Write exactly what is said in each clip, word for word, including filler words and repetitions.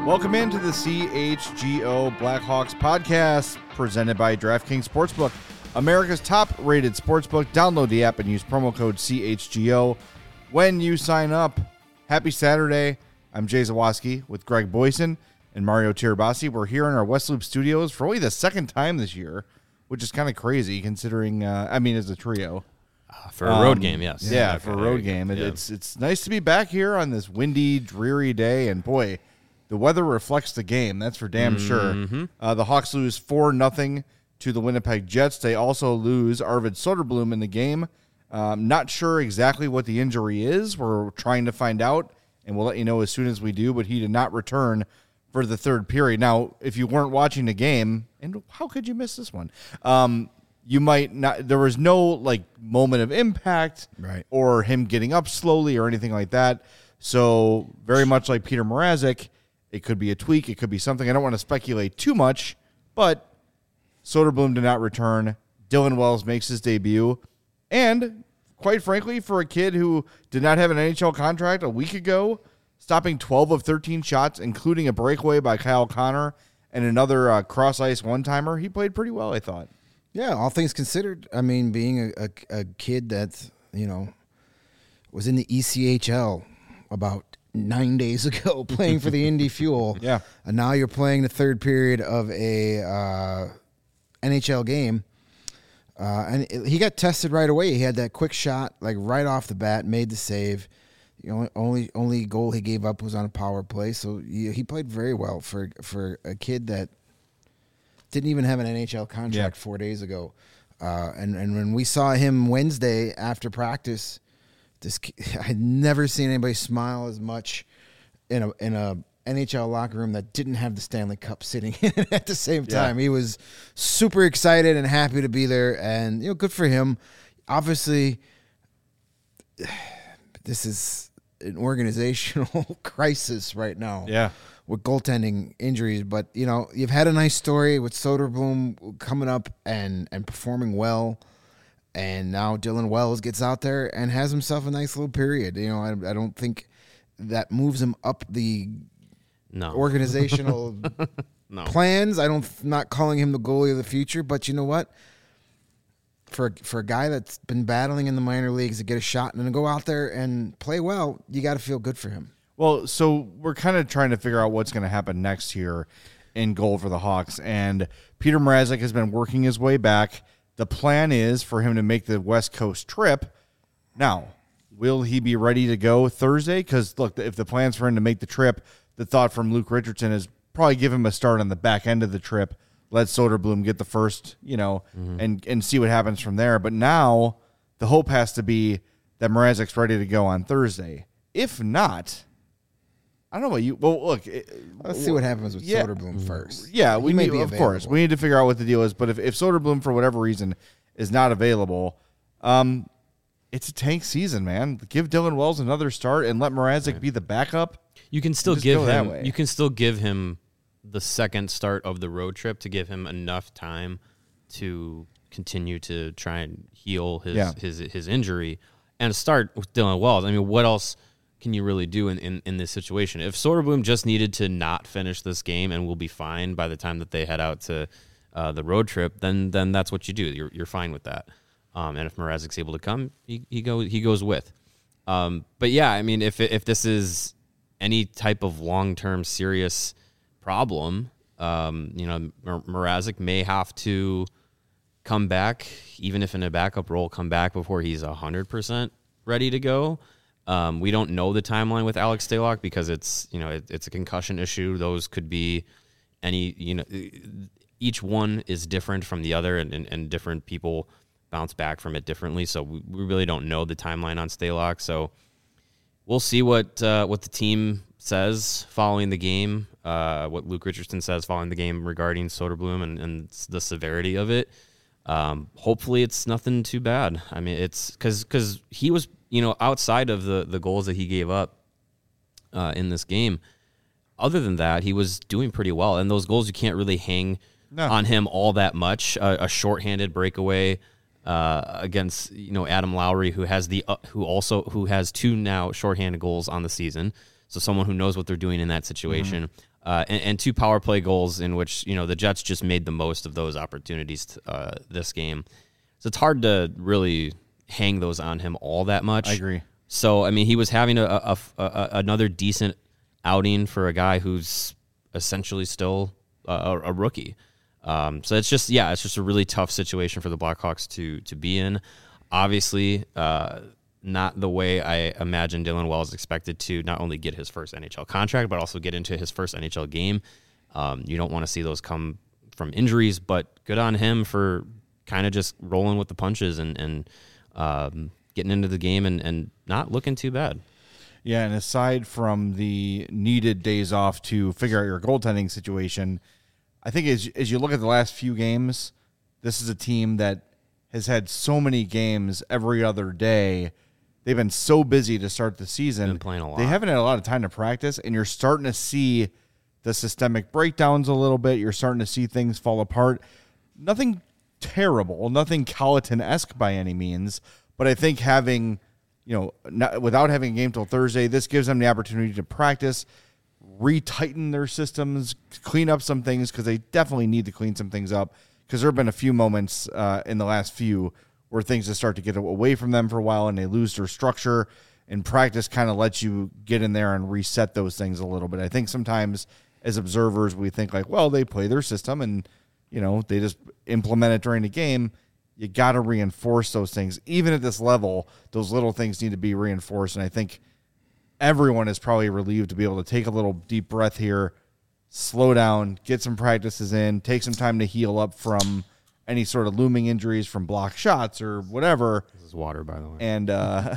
Welcome into the C H G O Blackhawks podcast presented by DraftKings Sportsbook, America's top-rated sportsbook. Download the app and use promo code C H G O when you sign up. Happy Saturday. I'm Jay Zawoski with Greg Boyson and Mario Tirabassi. We're here in our West Loop studios for only the second time this year, which is kind of crazy considering, uh, I mean, as a trio. Uh, for a road um, game, yes. Yeah, okay, for a road game. It, yeah. It's it's nice to be back here on this windy, dreary day, and boy, the weather reflects the game. That's for damn mm-hmm. sure. Uh, the Hawks lose four nothing to the Winnipeg Jets. They also lose Arvid Soderblom in the game. Um, not sure exactly what the injury is. We're trying to find out, and we'll let you know as soon as we do, but he did not return for the third period. Now, if you weren't watching the game, and how could you miss this one? Um, you might not, there was no like moment of impact right. or him getting up slowly or anything like that. So very much like Peter Mrazek, it could be a tweak. It could be something. I don't want to speculate too much, but Soderblom did not return. Dylan Wells makes his debut. And quite frankly, for a kid who did not have an N H L contract a week ago, stopping twelve of thirteen shots, including a breakaway by Kyle Connor and another uh, cross-ice one-timer, he played pretty well, I thought. Yeah, all things considered. I mean, being a, a, a kid that, you know, was in the E C H L about nine days ago playing for the Indy Fuel. Yeah. And now you're playing the third period of a uh, N H L game. Uh, and it, he got tested right away. He had that quick shot, like right off the bat, made the save. The only only, only goal he gave up was on a power play. So he, he played very well for for a kid that didn't even have an N H L contract yeah. four days ago. Uh, and, and when we saw him Wednesday after practice, This I'd never seen anybody smile as much in a in a N H L locker room that didn't have the Stanley Cup sitting in it at the same time. Yeah. He was super excited and happy to be there, and you know, good for him. Obviously, this is an organizational crisis right now. Yeah, with goaltending injuries, but you know, you've had a nice story with Soderblom coming up and and performing well. And now Dylan Wells gets out there and has himself a nice little period. You know, I, I don't think that moves him up the no. organizational no. plans. I don't, I'm not calling him the goalie of the future, but you know what? For for a guy that's been battling in the minor leagues to get a shot and to go out there and play well, you got to feel good for him. Well, so we're kind of trying to figure out what's going to happen next year in goal for the Hawks, and Peter Mrazek has been working his way back. The plan is for him to make the West Coast trip. Now, will he be ready to go Thursday? Because, look, if the plan's for him to make the trip, the thought from Luke Richardson is probably give him a start on the back end of the trip, let Soderblom get the first, you know, mm-hmm. and, and see what happens from there. But now the hope has to be that Mrazek's ready to go on Thursday. If not, I don't know what you. Well, look. Let's see what happens with yeah, Soderblom first. Yeah, we may need, be of available. course. We need to figure out what the deal is. But if, if Soderblom, for whatever reason, is not available, um, it's a tank season, man. Give Dylan Wells another start and let Mrazek right. be the backup. You can still give him. You can still give him the second start of the road trip to give him enough time to continue to try and heal his yeah. his his injury and start with Dylan Wells. I mean, what else can you really do in, in, in this situation? If Soderblom just needed to not finish this game and will be fine by the time that they head out to uh, the road trip, then then that's what you do. You're you're fine with that. Um, and if Mrazek's able to come, he he goes he goes with. Um, but yeah, I mean, if if this is any type of long term serious problem, um, you know, Mrazek may have to come back, even if in a backup role, come back before he's a hundred percent ready to go. Um, we don't know the timeline with Alex Stalock because it's, you know, it, it's a concussion issue. Those could be any, you know, each one is different from the other, and, and, and different people bounce back from it differently. So we, we really don't know the timeline on Stalock. So we'll see what uh, what the team says following the game, uh, what Luke Richardson says following the game regarding Soderblom and, and the severity of it. Um, hopefully it's nothing too bad. I mean, it's because because he was, you know, outside of the, the goals that he gave up uh, in this game, other than that, he was doing pretty well. And those goals, you can't really hang no. on him all that much. Uh, a shorthanded breakaway uh, against, you know, Adam Lowry, who has the uh, who also who has two now shorthanded goals on the season. So someone who knows what they're doing in that situation. Mm-hmm. uh, and, and two power play goals in which, you know, the Jets just made the most of those opportunities uh, this game. So it's hard to really hang those on him all that much. I agree. So, I mean, he was having a, a, a, a another decent outing for a guy who's essentially still a, a rookie. Um, so it's just, yeah, it's just a really tough situation for the Blackhawks to to be in. Obviously, uh, not the way I imagine Dylan Wells expected to not only get his first N H L contract, but also get into his first N H L game. Um, you don't want to see those come from injuries, but good on him for kind of just rolling with the punches and, and um, getting into the game and, and not looking too bad. Yeah, and aside from the needed days off to figure out your goaltending situation, I think as, as you look at the last few games, this is a team that has had so many games every other day. They've been so busy to start the season. Been playing a lot. They haven't had a lot of time to practice, and you're starting to see the systemic breakdowns a little bit. You're starting to see things fall apart. Nothing terrible, nothing Colleton-esque by any means, but I think having, you know, not, without having a game till Thursday, this gives them the opportunity to practice, retighten their systems, clean up some things, because they definitely need to clean some things up, because there have been a few moments uh, in the last few where things just start to get away from them for a while and they lose their structure, and practice kind of lets you get in there and reset those things a little bit. I think sometimes as observers we think like, well, they play their system and, you know, they just implement it during the game. You got to reinforce those things. Even at this level, those little things need to be reinforced, and I think everyone is probably relieved to be able to take a little deep breath here, slow down, get some practices in, take some time to heal up from any sort of looming injuries from blocked shots or whatever. This is water, by the way. And uh,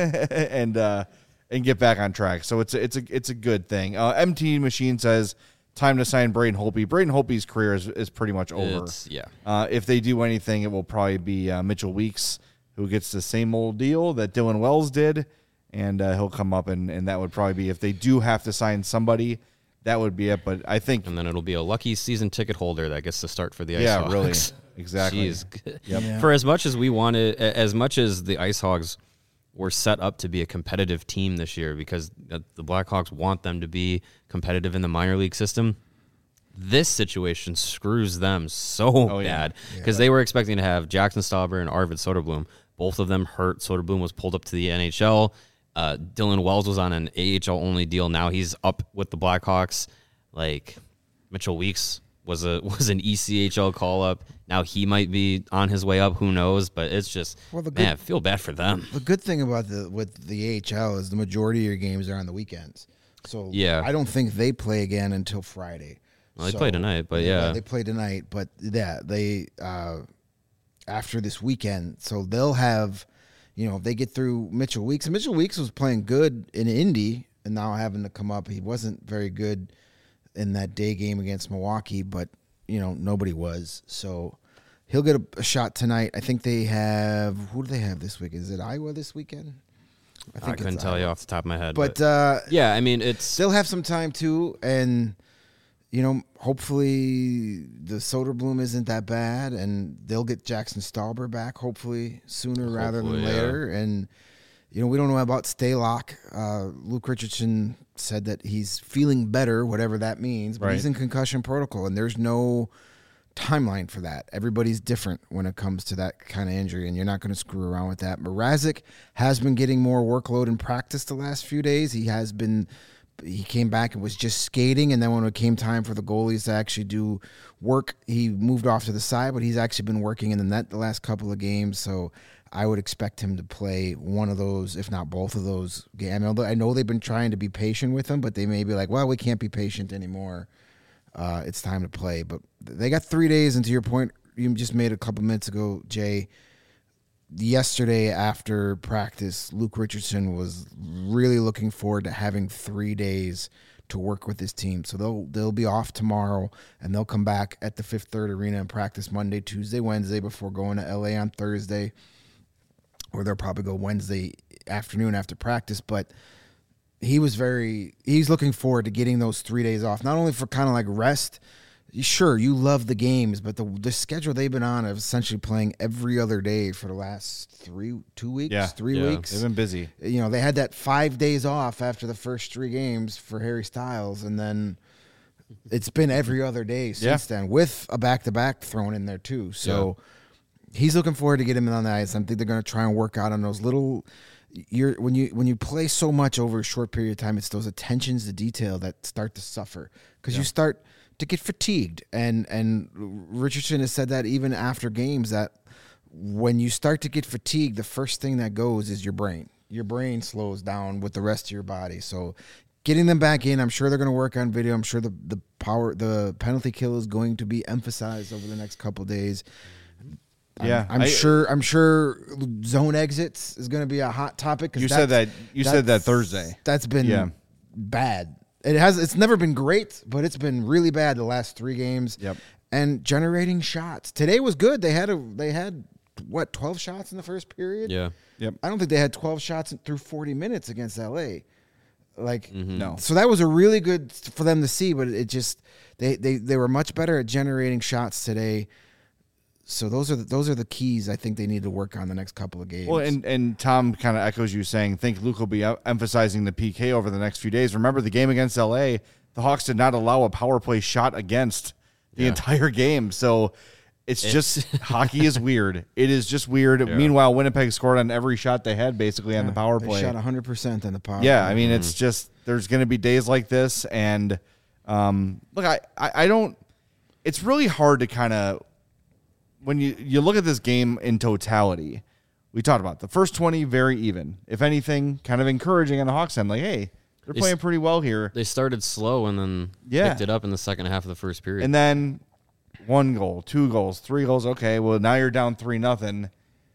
and uh, and get back on track. So it's a, it's a it's a good thing. Uh, M T Machine says time to sign Braden Holtby. Braden Holtby's career is, is pretty much over. It's, yeah. Uh, if they do anything, it will probably be uh, Mitchell Weeks, who gets the same old deal that Dylan Wells did, and uh, he'll come up, and, and that would probably be, if they do have to sign somebody, that would be it. But I think... And then it'll be a lucky season ticket holder that gets to start for the Ice yeah, Hogs. really. Exactly. Jeez. Yep. Yeah. For as much as we wanted, as much as the Ice Hogs were set up to be a competitive team this year, because the Blackhawks want them to be competitive in the minor league system, this situation screws them so oh, bad, because yeah. yeah. they were expecting to have Jackson Stauber and Arvid Soderblom. Both of them hurt. Soderblom was pulled up to the N H L. Uh, Dylan Wells was on an A H L-only deal. Now he's up with the Blackhawks. Like, Mitchell Weeks was a was an E C H L call-up. Now he might be on his way up. Who knows? But it's just, well, the good, man, I feel bad for them. The good thing about the with the A H L is the majority of your games are on the weekends. So yeah. I don't think they play again until Friday. Well, they so, play tonight, but yeah. yeah. They play tonight, but yeah, they, uh, after this weekend, so they'll have, you know, if they get through Mitchell Weeks, and Mitchell Weeks was playing good in Indy, and now having to come up, he wasn't very good in that day game against Milwaukee, but, you know, nobody was, so he'll get a, a shot tonight. I think they have, who do they have this week? Is it Iowa this weekend? I, think I couldn't tell Iowa. you off the top of my head. But, but uh, yeah, I mean, it's... They'll have some time, too, and... You know, hopefully the Soderblom isn't that bad, and they'll get Jackson Stauber back, hopefully, sooner hopefully, rather than later. Yeah. And, you know, we don't know about Stalock. Uh, Luke Richardson said that he's feeling better, whatever that means, but right. he's in concussion protocol, and there's no timeline for that. Everybody's different when it comes to that kind of injury, and you're not going to screw around with that. Mrazek has been getting more workload in practice the last few days. He has been... He came back and was just skating, and then when it came time for the goalies to actually do work, he moved off to the side, but he's actually been working in the net the last couple of games, so I would expect him to play one of those, if not both of those games. I know they've been trying to be patient with him, but they may be like, well, we can't be patient anymore. Uh, it's time to play. But they got three days, and to your point, you just made a couple minutes ago, Jay, yesterday after practice, Luke Richardson was really looking forward to having three days to work with his team. So they'll they'll be off tomorrow, and they'll come back at the Fifth Third Arena and practice Monday, Tuesday, Wednesday before going to L A on Thursday, or they'll probably go Wednesday afternoon after practice. But he was very he's looking forward to getting those three days off, not only for kind of like rest. Sure, you love the games, but the the schedule they've been on of essentially playing every other day for the last three, two weeks, yeah, three yeah. weeks. They've been busy. You know, they had that five days off after the first three games for Harry Styles, and then It's been every other day since yeah. then, with a back-to-back thrown in there too. So yeah. he's looking forward to get him on the ice. I think they're going to try and work out on those little. You're when you when you play so much over a short period of time, it's those attentions to detail that start to suffer because yeah. you start to get fatigued. And and Richardson has said that even after games that when you start to get fatigued, the first thing that goes is your brain. Your brain slows down with the rest of your body. So getting them back in, I'm sure they're going to work on video. I'm sure the, the power, the penalty kill is going to be emphasized over the next couple of days. Yeah, I'm, I'm I, sure. I'm sure zone exits is going to be a hot topic. You said that. You said that Thursday. That's been yeah. bad. It has. It's never been great, but it's been really bad the last three games. Yep. And generating shots today was good. They had a. They had what twelve shots in the first period. Yeah. Yep. I don't think they had twelve shots through forty minutes against L A. Like mm-hmm. no. So that was a really good for them to see, but it just they they they were much better at generating shots today. So those are the, those are the keys I think they need to work on the next couple of games. Well, and, and Tom kind of echoes you saying, think Luke will be emphasizing the P K over the next few days. Remember the game against L A, the Hawks did not allow a power play shot against the yeah. entire game. So it's, it's just hockey is weird. It is just weird. Yeah. Meanwhile, Winnipeg scored on every shot they had basically yeah, on the power play. They shot one hundred percent on the power yeah, play. I mean, mm-hmm. it's just there's going to be days like this. And um, look, I, I, I don't – it's really hard to kind of – when you, you look at this game in totality, we talked about the first twenty very even. If anything, kind of encouraging on the Hawks end. Like, hey, they're they playing pretty well here. They started slow and then yeah. picked it up in the second half of the first period. And then one goal, two goals, three goals. Okay, well, now you're down three nothing,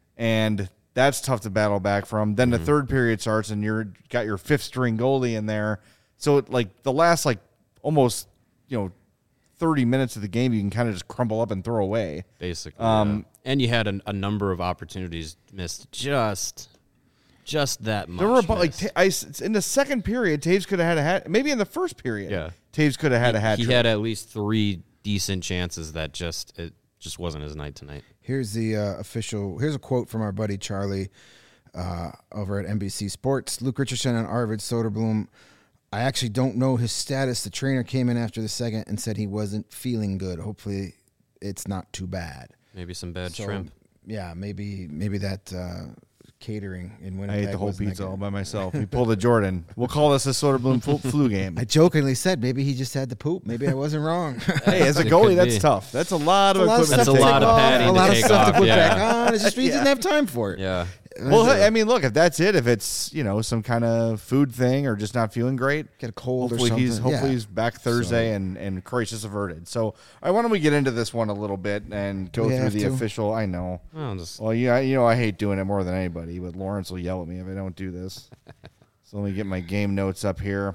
and that's tough to battle back from. Then mm-hmm. the third period starts, and you're got your fifth string goalie in there. So like the last like almost you know. thirty minutes of the game you can kind of just crumble up and throw away. Basically. Um, yeah. And you had a, a number of opportunities missed just just that much. There were about, like I, in the second period, Taves could have had a hat. Maybe in the first period, yeah. Taves could have had he, a hat. He trick. had at least three decent chances that just it just wasn't his night tonight. Here's the uh, official. Here's a quote from our buddy Charlie uh, over at N B C Sports. Luke Richardson and Arvid Soderblom. I actually don't know his status. The trainer came in after the second and said he wasn't feeling good. Hopefully, it's not too bad. Maybe some bad so, shrimp. Yeah, maybe maybe that uh, catering in Winnipeg. I ate the whole pizza all by myself. We pulled a Jordan. We'll call this a Soderblom flu, flu game. I jokingly said maybe he just had to poop. Maybe I wasn't wrong. Hey, as a goalie, that's be. tough. That's a lot of equipment. That's a lot of padding a lot to of take stuff off. to put yeah. back on. It's just he yeah. didn't have time for it. Yeah. Well, I mean, look, if that's it, if it's, you know, some kind of food thing or just not feeling great, get a cold hopefully or something. He's, hopefully yeah. he's back Thursday so. and, and crisis averted. So, all right, why don't we get into this one a little bit and go we through the to. official, I know. Well, just, well, yeah, you know, I hate doing it more than anybody, but Lawrence will yell at me if I don't do this. So let me get my game notes up here.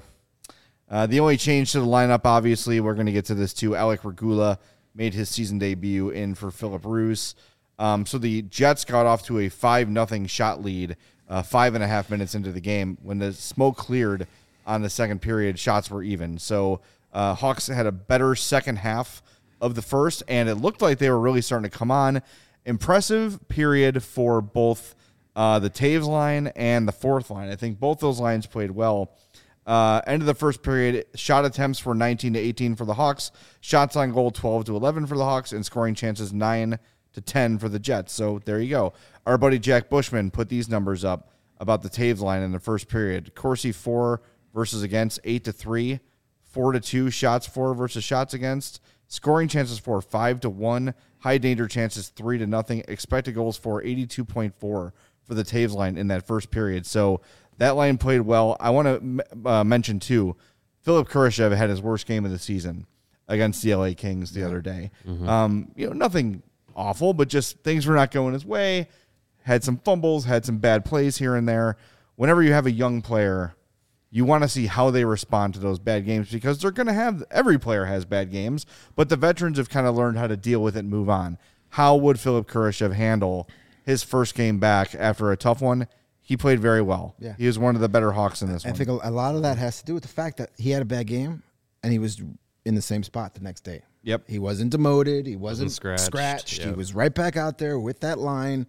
Uh, the only change to the lineup, obviously, we're going to get to this too. Alec Regula made his season debut in for Philip Roos. Um, so the Jets got off to a five nothing shot lead uh, five and a half minutes into the game. When the smoke cleared on the second period, shots were even. So uh, Hawks had a better second half of the first, and it looked like they were really starting to come on. Impressive period for both uh, the Taves line and the fourth line. I think both those lines played well. Uh, end of the first period, shot attempts were nineteen to eighteen for the Hawks. Shots on goal twelve to eleven for the Hawks, and scoring chances nine to ten for the Jets. So there you go. Our buddy Jack Bushman put these numbers up about the Taves line in the first period. Corsi four versus against, eight to three, four to two shots for versus shots against, scoring chances for five to one, high danger chances three to nothing, expected goals for eighty-two point four for the Taves line in that first period. So that line played well. I want to uh, mention too, Philip Kurashev had his worst game of the season against the L A Kings the yeah. other day. Mm-hmm. Um, you know, nothing awful, but just things were not going his way. Had some fumbles, had some bad plays here and there. Whenever you have a young player, you want to see how they respond to those bad games because they're going to have, every player has bad games, but the veterans have kind of learned how to deal with it and move on. How would Philip Kurashev handle his first game back after a tough one? He played very well. Yeah. He was one of the better Hawks in this I one. I think a lot of that has to do with the fact that he had a bad game and he was in the same spot the next day. Yep. He wasn't demoted. He wasn't, wasn't scratched. scratched. Yep. He was right back out there with that line,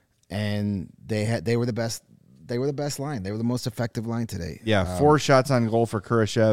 and they had they were the best. They were the best line. They were the most effective line today. Yeah, um, four shots on goal for Kurashev,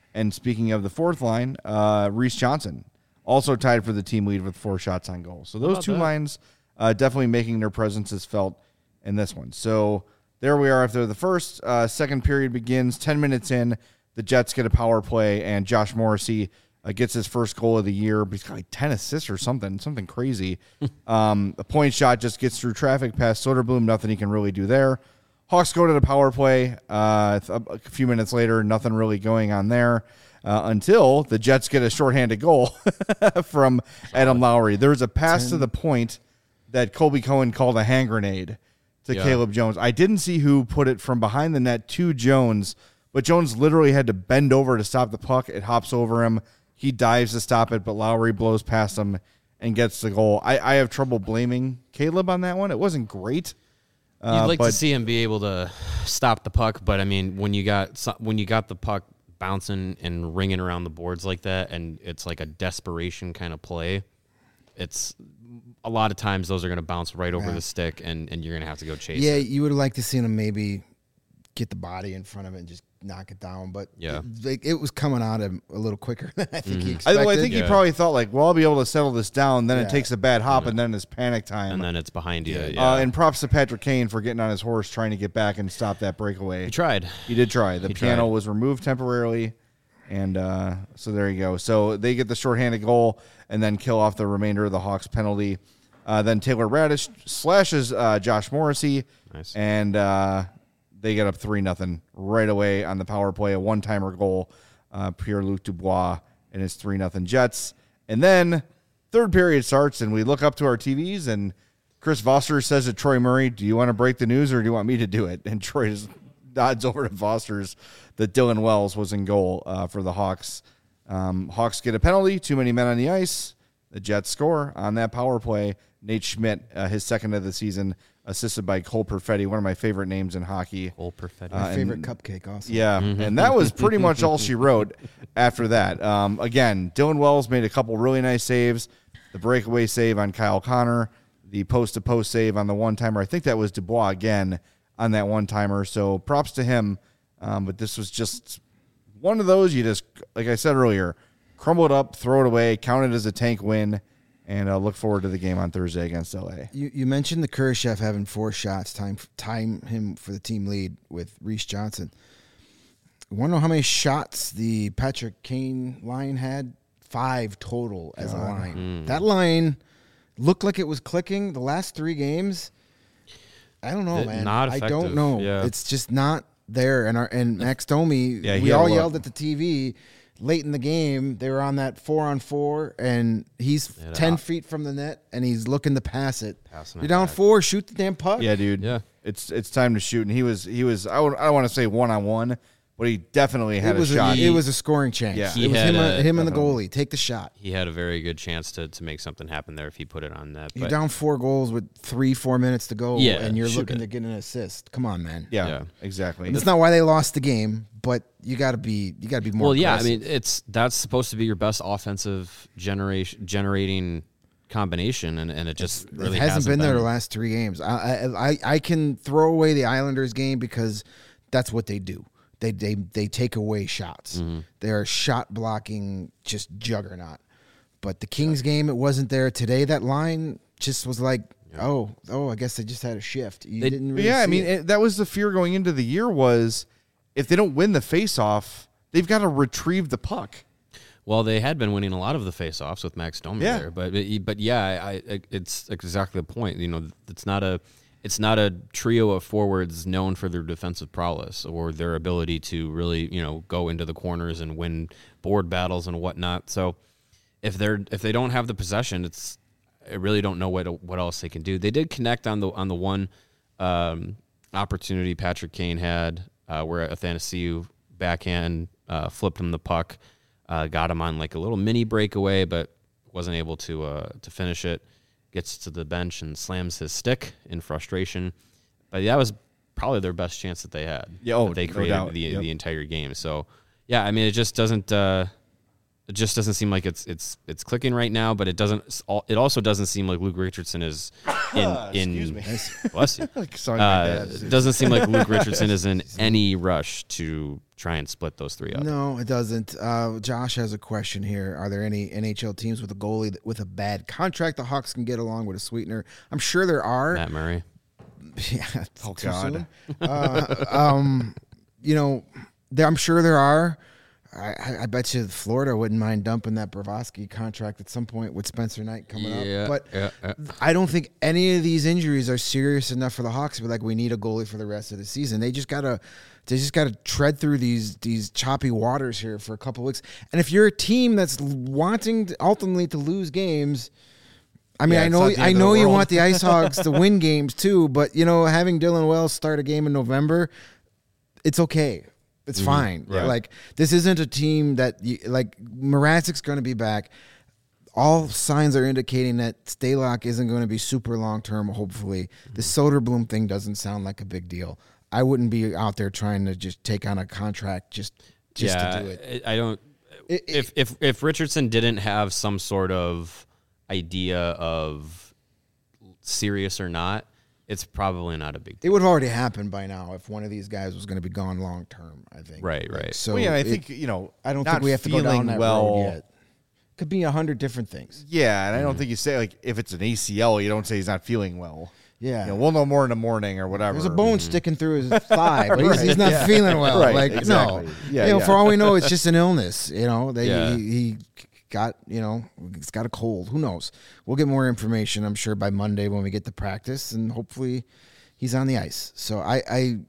And speaking of the fourth line, uh, Reese Johnson also tied for the team lead with four shots on goal. So those two that? lines uh, definitely making their presences felt in this one. So there we are after the first. Uh, second period begins. Ten minutes in, the Jets get a power play, and Josh Morrissey uh, gets his first goal of the year. He's got like ten assists or something, something crazy. um, a point shot just gets through traffic past Soderblom. Nothing he can really do there. Hawks go to the power play. Uh, a few minutes later, nothing really going on there uh, until the Jets get a shorthanded goal from Adam Lowry. There was a pass Ten. to the point that Colby Cohen called a hand grenade to yeah. Caleb Jones. I didn't see who put it from behind the net to Jones, but Jones literally had to bend over to stop the puck. It hops over him. He dives to stop it, but Lowry blows past him and gets the goal. I, I have trouble blaming Caleb on that one. It wasn't great. You'd uh, like but, to see him be able to stop the puck, but I mean, when you got when you got the puck bouncing and ringing around the boards like that, and it's like a desperation kind of play, it's a lot of times those are going to bounce right over yeah. the stick, and, and you're going to have to go chase yeah, it. Yeah, you would have liked to see him maybe get the body in front of it and just knock it down, but yeah. it, like, it was coming out a, a little quicker than I think mm-hmm. he expected. I, well, I think yeah. he probably thought, like, well, I'll be able to settle this down, then yeah. it takes a bad hop, mm-hmm. and then it's panic time. And then it's behind you. Yeah. Uh, and props to Patrick Kane for getting on his horse, trying to get back and stop that breakaway. He tried. He did try. The he piano tried. was removed temporarily, and uh, so there you go. So they get the shorthanded goal and then kill off the remainder of the Hawks penalty. Uh, then Taylor Radish slashes uh, Josh Morrissey, nice. and uh, they get up three nothing right away on the power play, a one-timer goal, uh, Pierre-Luc Dubois and his three nothing Jets. And then third period starts, and we look up to our T Vs, and Chris Foster says to Troy Murray, do you want to break the news or do you want me to do it? And Troy just nods over to Foster's that Dylan Wells was in goal uh, for the Hawks. Um, Hawks get a penalty, too many men on the ice. The Jets score on that power play. Nate Schmidt, uh, his second of the season, assisted by Cole Perfetti, one of my favorite names in hockey. Cole Perfetti. My uh, favorite cupcake also. Yeah, mm-hmm. and that was pretty much all she wrote after that. Um, again, Dylan Wells made a couple really nice saves. The breakaway save on Kyle Connor, the post-to-post save on the one-timer. I think that was Dubois again on that one-timer, so props to him. Um, but this was just one of those you just, like I said earlier, crumble it up, throw it away, count it as a tank win, and uh, look forward to the game on Thursday against L A. You, you mentioned the Kurashev having four shots, time time him for the team lead with Reese Johnson. I want to know how many shots the Patrick Kane line had? Five total as God. a line. Mm. That line looked like it was clicking the last three games. I don't know, it, man. Not I don't know. Yeah. It's just not there. And our and Max Domi, yeah, we all yelled at the T V. Late in the game, they were on that four-on-four, and he's ten out. feet from the net, and he's looking to pass it. Passing You're down back. four, shoot the damn puck. Yeah, dude. Yeah, it's it's time to shoot. And he was he was I, would, I don't want to say one-on-one, but he definitely had it was a shot. A, it was a scoring chance. Yeah. It was him, a, him and the goalie. Take the shot. He had a very good chance to, to make something happen there if he put it on net. You're down four goals with three, four minutes to go, yeah, and you're looking it. to get an assist. Come on, man. Yeah, yeah. exactly. That's not why they lost the game, but you got to be you got to be more. Well, yeah, aggressive. I mean, it's that's supposed to be your best offensive generation generating combination, and, and it just it's, really it hasn't, hasn't been, been there the last three games. I, I I can throw away the Islanders game because that's what they do. They they they take away shots. Mm-hmm. They're a shot blocking just juggernaut. But the Kings game, it wasn't there today. That line just was like, yeah. oh, oh, I guess they just had a shift. You they, didn't really Yeah, see I mean, it. it, that was the fear going into the year was if they don't win the faceoff, they've got to retrieve the puck. Well, they had been winning a lot of the faceoffs with Max Domi yeah. there, but but yeah, I, I, it's exactly the point. You know, it's not a it's not a trio of forwards known for their defensive prowess or their ability to really, you know, go into the corners and win board battles and whatnot. So if they're if they don't have the possession, it's I really don't know what what else they can do. They did connect on the on the one um, opportunity Patrick Kane had uh, where Athanasiou backhand uh, flipped him the puck. Uh, got him on like a little mini breakaway, but wasn't able to uh, to finish it. Gets to the bench and slams his stick in frustration. But that was probably their best chance that they had. Yeah, oh, that they no created doubt. the Yep. the entire game. So yeah, I mean, it just doesn't uh, It just doesn't seem like it's it's it's clicking right now, but it doesn't. It also doesn't seem like Luke Richardson is in in. Excuse me. Bless you. Sorry, uh, it doesn't seem like Luke Richardson is in any rush to try and split those three up. No, it doesn't. Uh, Josh has a question here. Are there any N H L teams with a goalie that, with a bad contract the Hawks can get along with a sweetener? I'm sure there are. Matt Murray. Yeah. Oh God. uh, um, you know, there, I'm sure there are. I, I bet you Florida wouldn't mind dumping that Bravosky contract at some point with Spencer Knight coming yeah, up. But yeah, yeah. I don't think any of these injuries are serious enough for the Hawks to be like, we need a goalie for the rest of the season. They just gotta, they just gotta tread through these these choppy waters here for a couple of weeks. And if you're a team that's wanting to ultimately to lose games, I mean, yeah, I know, I know you want the Ice Hogs to win games too, but you know, having Dylan Wells start a game in November, it's okay. It's mm-hmm. fine. Right. Like, this isn't a team that, you, like, Mrazek's going to be back. All signs are indicating that Stalock isn't going to be super long-term, hopefully. Mm-hmm. The Soderblom thing doesn't sound like a big deal. I wouldn't be out there trying to just take on a contract just, just yeah, to do it. I don't it, – if, if, if Richardson didn't have some sort of idea of serious or not, it's probably not a big deal. It would have already happened by now if one of these guys was going to be gone long term, I think. Right, like, right. So well, yeah, I it, think, you know, I don't think we have to go down that well, road yet. Could be a hundred different things. Yeah, and I don't mm-hmm. think you say, like, if it's an A C L, you don't say he's not feeling well. Yeah. You know, we'll know more in the morning or whatever. There's a bone mm-hmm. sticking through his thigh, but he's, right, he's not yeah. feeling well. Right, like, exactly. no. Yeah, you know, yeah. for all we know, it's just an illness. You know, they, yeah. he, he got, you know, he's got a cold. Who knows? We'll get more information, I'm sure, by Monday when we get to practice, and hopefully he's on the ice. So I, I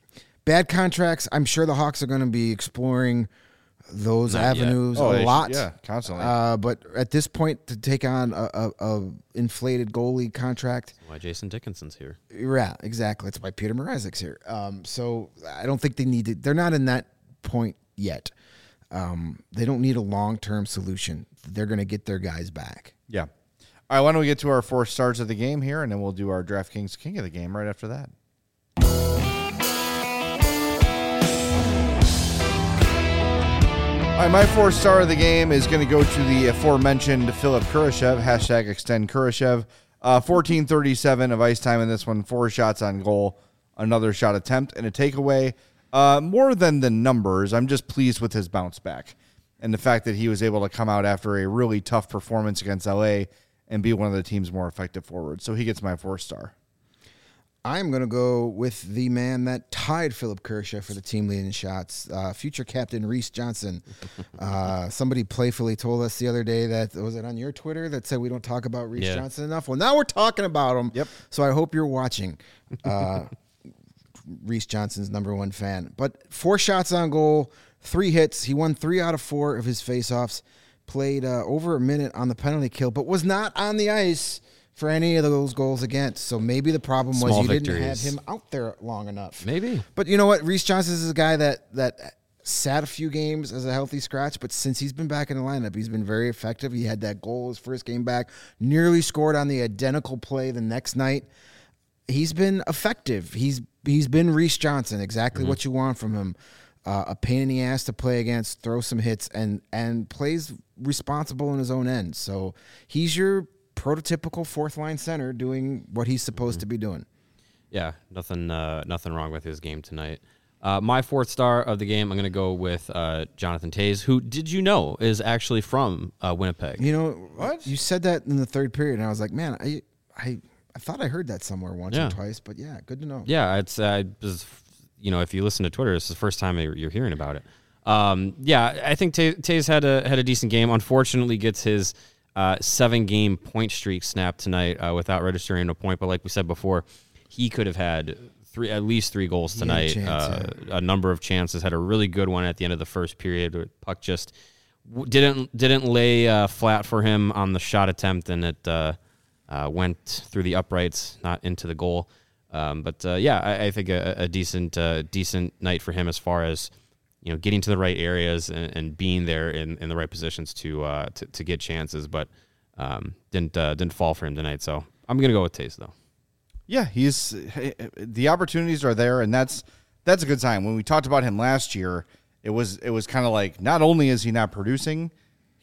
bad contracts. I'm sure the Hawks are going to be exploring those Not avenues oh, a lot. Should, yeah, constantly. Uh, but at this point, to take on a, a, a inflated goalie contract, That's why Jason Dickinson's here. Yeah, exactly. That's why Peter Mrazek's here. Um, so I don't think they need to. They're not in that point yet. Um, they don't need a long-term solution. They're going to get their guys back. Yeah. All right, why don't we get to our four stars of the game here, and then we'll do our DraftKings King of the Game right after that. All right, my four star of the game is going to go to the aforementioned Philip Kurashev, hashtag extend Kurashev. Uh, fourteen thirty-seven of ice time in this one, four shots on goal, another shot attempt, and a takeaway. Uh, more than the numbers, I'm just pleased with his bounce back and the fact that he was able to come out after a really tough performance against L A and be one of the team's more effective forwards. So he gets my four star. I'm going to go with the man that tied Philip Kurashev for the team leading shots, uh, future captain Reese Johnson. Uh, somebody playfully told us the other day that, was it on your Twitter, that said we don't talk about Reese yeah. Johnson enough? Well, now we're talking about him. Yep. So I hope you're watching. Uh, Reese Johnson's number one fan. But four shots on goal, three hits. He won three out of four of his faceoffs, played uh, over a minute on the penalty kill, but was not on the ice for any of those goals against. So maybe the problem was Small you victories. didn't have him out there long enough. Maybe. But you know what? Reese Johnson is a guy that that sat a few games as a healthy scratch, but since he's been back in the lineup, he's been very effective. He had that goal his first game back, nearly scored on the identical play the next night. He's been effective. He's he's been Reese Johnson, exactly mm-hmm. what you want from him. Uh, a pain in the ass to play against, throw some hits, and and plays responsible in his own end. So he's your prototypical fourth line center doing what he's supposed mm-hmm. to be doing. Yeah, nothing uh, nothing wrong with his game tonight. Uh, my fourth star of the game, I'm going to go with uh, Jonathan Toews, who, did you know, is actually from uh, Winnipeg. You know, what? You said that in the third period, and I was like, man, I I, I thought I heard that somewhere once yeah. or twice, but yeah, good to know. Yeah, it's uh, was, you know, if you listen to Twitter, it's the first time you're, you're hearing about it. Um, yeah, I think Toews had a had a decent game. Unfortunately, gets his uh, seven-game point streak snapped tonight uh, without registering a point. But like we said before, he could have had three, at least three goals tonight. Chance, uh, yeah. A number of chances. Had a really good one at the end of the first period. Puck just w- didn't didn't lay uh, flat for him on the shot attempt, and it uh, uh, went through the uprights, not into the goal. Um, but uh, yeah, I, I think a, a decent uh, decent night for him as far as, you know, getting to the right areas and, and being there in, in the right positions to uh, to, to get chances, but um, didn't uh, didn't fall for him tonight. So I'm gonna go with Toews though. Yeah, he's the opportunities are there, and that's that's a good sign. When we talked about him last year, it was it was kind of like, not only is he not producing,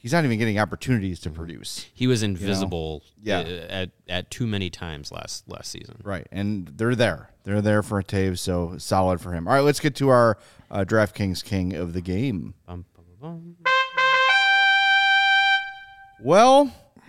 he's not even getting opportunities to produce. He was invisible you know? yeah. at at too many times last last season. Right, and they're there. They're there for a Taves, so solid for him. All right, let's get to our uh, DraftKings king of the game. Bum, bum, bum. Well...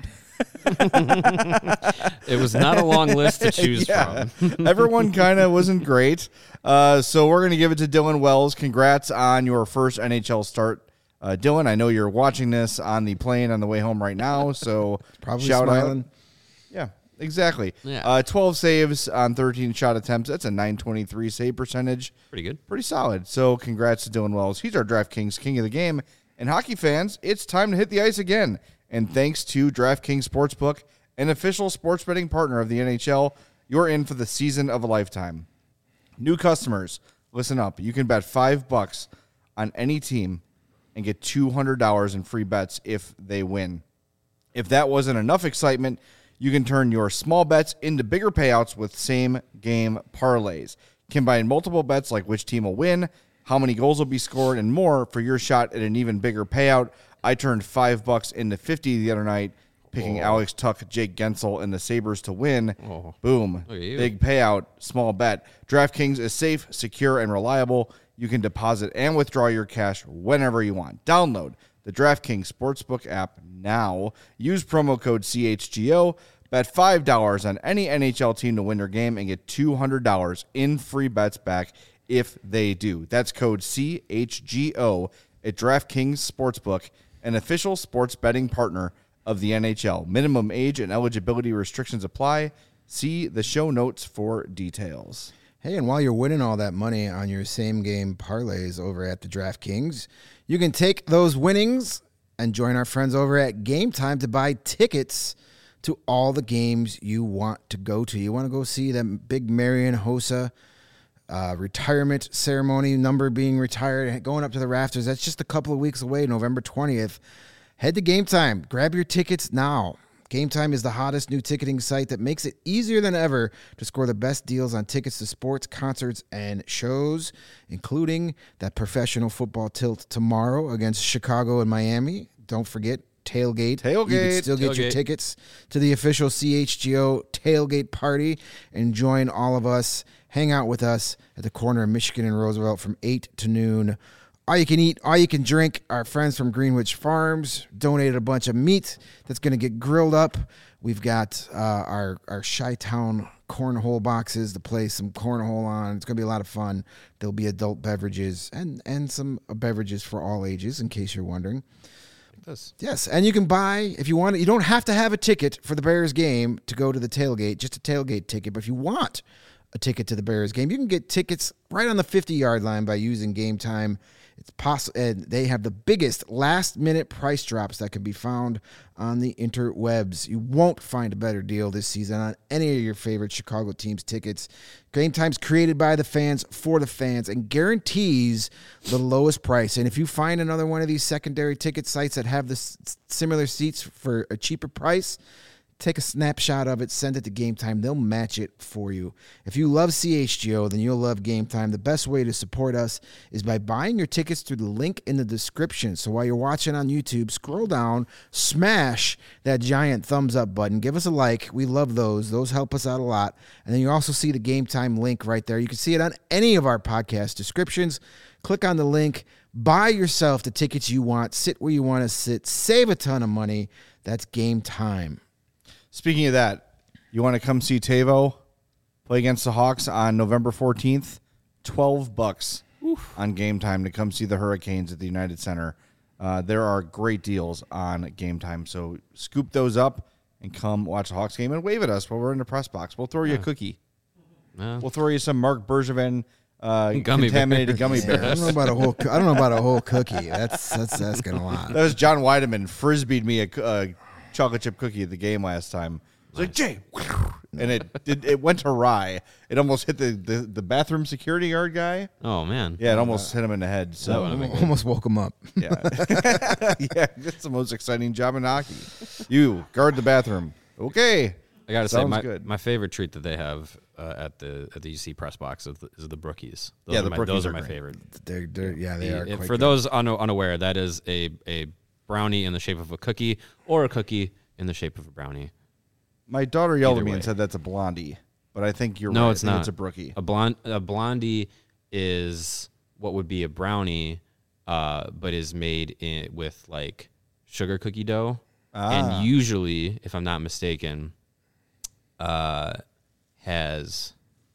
It was not a long list to choose yeah. from. Everyone kind of wasn't great. Uh, so we're going to give it to Dylan Wells. Congrats on your first N H L start. Uh, Dylan, I know you're watching this on the plane on the way home right now, so probably shout smiling. out. Yeah, exactly. Yeah. Uh, twelve saves on thirteen shot attempts. That's a nine twenty-three save percentage. Pretty good. Pretty solid. So congrats to Dylan Wells. He's our DraftKings king of the game. And hockey fans, it's time to hit the ice again. And thanks to DraftKings Sportsbook, an official sports betting partner of the N H L, you're in for the season of a lifetime. New customers, listen up. You can bet five bucks on any team and get two hundred dollars in free bets if they win. If that wasn't enough excitement, you can turn your small bets into bigger payouts with same-game parlays. Combine multiple bets like which team will win, how many goals will be scored, and more for your shot at an even bigger payout. I turned five bucks into fifty the other night, picking oh. Alex Tuch, Jake Gensel, and the Sabres to win. Oh. Boom. Big payout, small bet. DraftKings is safe, secure, and reliable. You can deposit and withdraw your cash whenever you want. Download the DraftKings Sportsbook app now. Use promo code C H G O. Bet five dollars on any N H L team to win their game and get two hundred dollars in free bets back if they do. That's code C H G O at DraftKings Sportsbook, an official sports betting partner of the N H L. Minimum age and eligibility restrictions apply. See the show notes for details. Hey, and while you're winning all that money on your same-game parlays over at the DraftKings, you can take those winnings and join our friends over at Game Time to buy tickets to all the games you want to go to. You want to go see that big Marian Hossa Uh, retirement ceremony, number being retired, going up to the rafters. That's just a couple of weeks away, November twentieth. Head to Game Time. Grab your tickets now. Game Time is the hottest new ticketing site that makes it easier than ever to score the best deals on tickets to sports, concerts, and shows, including that professional football tilt tomorrow against Chicago and Miami. Don't forget, Tailgate. Tailgate. You can still get Tailgate. your tickets to the official C H G O Tailgate Party and join all of us. Hang out with us at the corner of Michigan and Roosevelt from eight to noon. All you can eat, all you can drink. Our friends from Greenwich Farms donated a bunch of meat that's going to get grilled up. We've got uh, our, our Chi-Town cornhole boxes to play some cornhole on. It's going to be a lot of fun. There'll be adult beverages and, and some beverages for all ages, in case you're wondering. This. Yes, and you can buy, if you want, you don't have to have a ticket for the Bears game to go to the tailgate, just a tailgate ticket. But if you want a ticket to the Bears game, you can get tickets right on the fifty-yard line by using Game Time. It's possible, and they have the biggest last-minute price drops that can be found on the interwebs. You won't find a better deal this season on any of your favorite Chicago teams' tickets. Game Time's created by the fans for the fans and guarantees the lowest price. And if you find another one of these secondary ticket sites that have this similar seats for a cheaper price, take a snapshot of it, send it to Game Time. They'll match it for you. If you love C H G O, then you'll love Game Time. The best way to support us is by buying your tickets through the link in the description. So while you're watching on YouTube, scroll down, smash that giant thumbs up button. Give us a like. We love those. Those help us out a lot. And then you also see the Game Time link right there. You can see it on any of our podcast descriptions. Click on the link. Buy yourself the tickets you want. Sit where you want to sit. Save a ton of money. That's Game Time. Speaking of that, you want to come see Tavo play against the Hawks on November fourteenth? twelve bucks Oof. On Game Time to come see the Hurricanes at the United Center. Uh, there are great deals on Game Time, so scoop those up and come watch the Hawks game and wave at us while we're in the press box. We'll throw you yeah. a cookie. Yeah. We'll throw you some Mark Bergevin uh, gummy contaminated bear. gummy bears. Yeah, I don't know about a whole. I don't know about a whole cookie. That's that's asking a lot. That was John Weideman frisbeed me a. Uh, chocolate chip cookie at the game last time. It's like, Jay, and it, it it went awry. It almost hit the, the, the bathroom security guard guy. Oh, man. Yeah, it almost uh, hit him in the head. So almost woke him up. Yeah. Yeah, that's the most exciting job in hockey. You guard the bathroom. Okay. I got to say, my, good. my favorite treat that they have uh, at the at the U C press box is the, is the Brookies. Those yeah, are the my, Brookies those are, are my great. favorite. They're, they're, yeah, they the, are quite For good. those un- unaware, that is a, a brownie in the shape of a cookie or a cookie in the shape of a brownie. My daughter yelled Either at me way. and said that's a blondie, but I think you're No, right. it's I think not. It's a brookie. A blond a blondie is what would be a brownie, uh, but is made in, with like sugar cookie dough, Ah. and usually, if I'm not mistaken, uh, has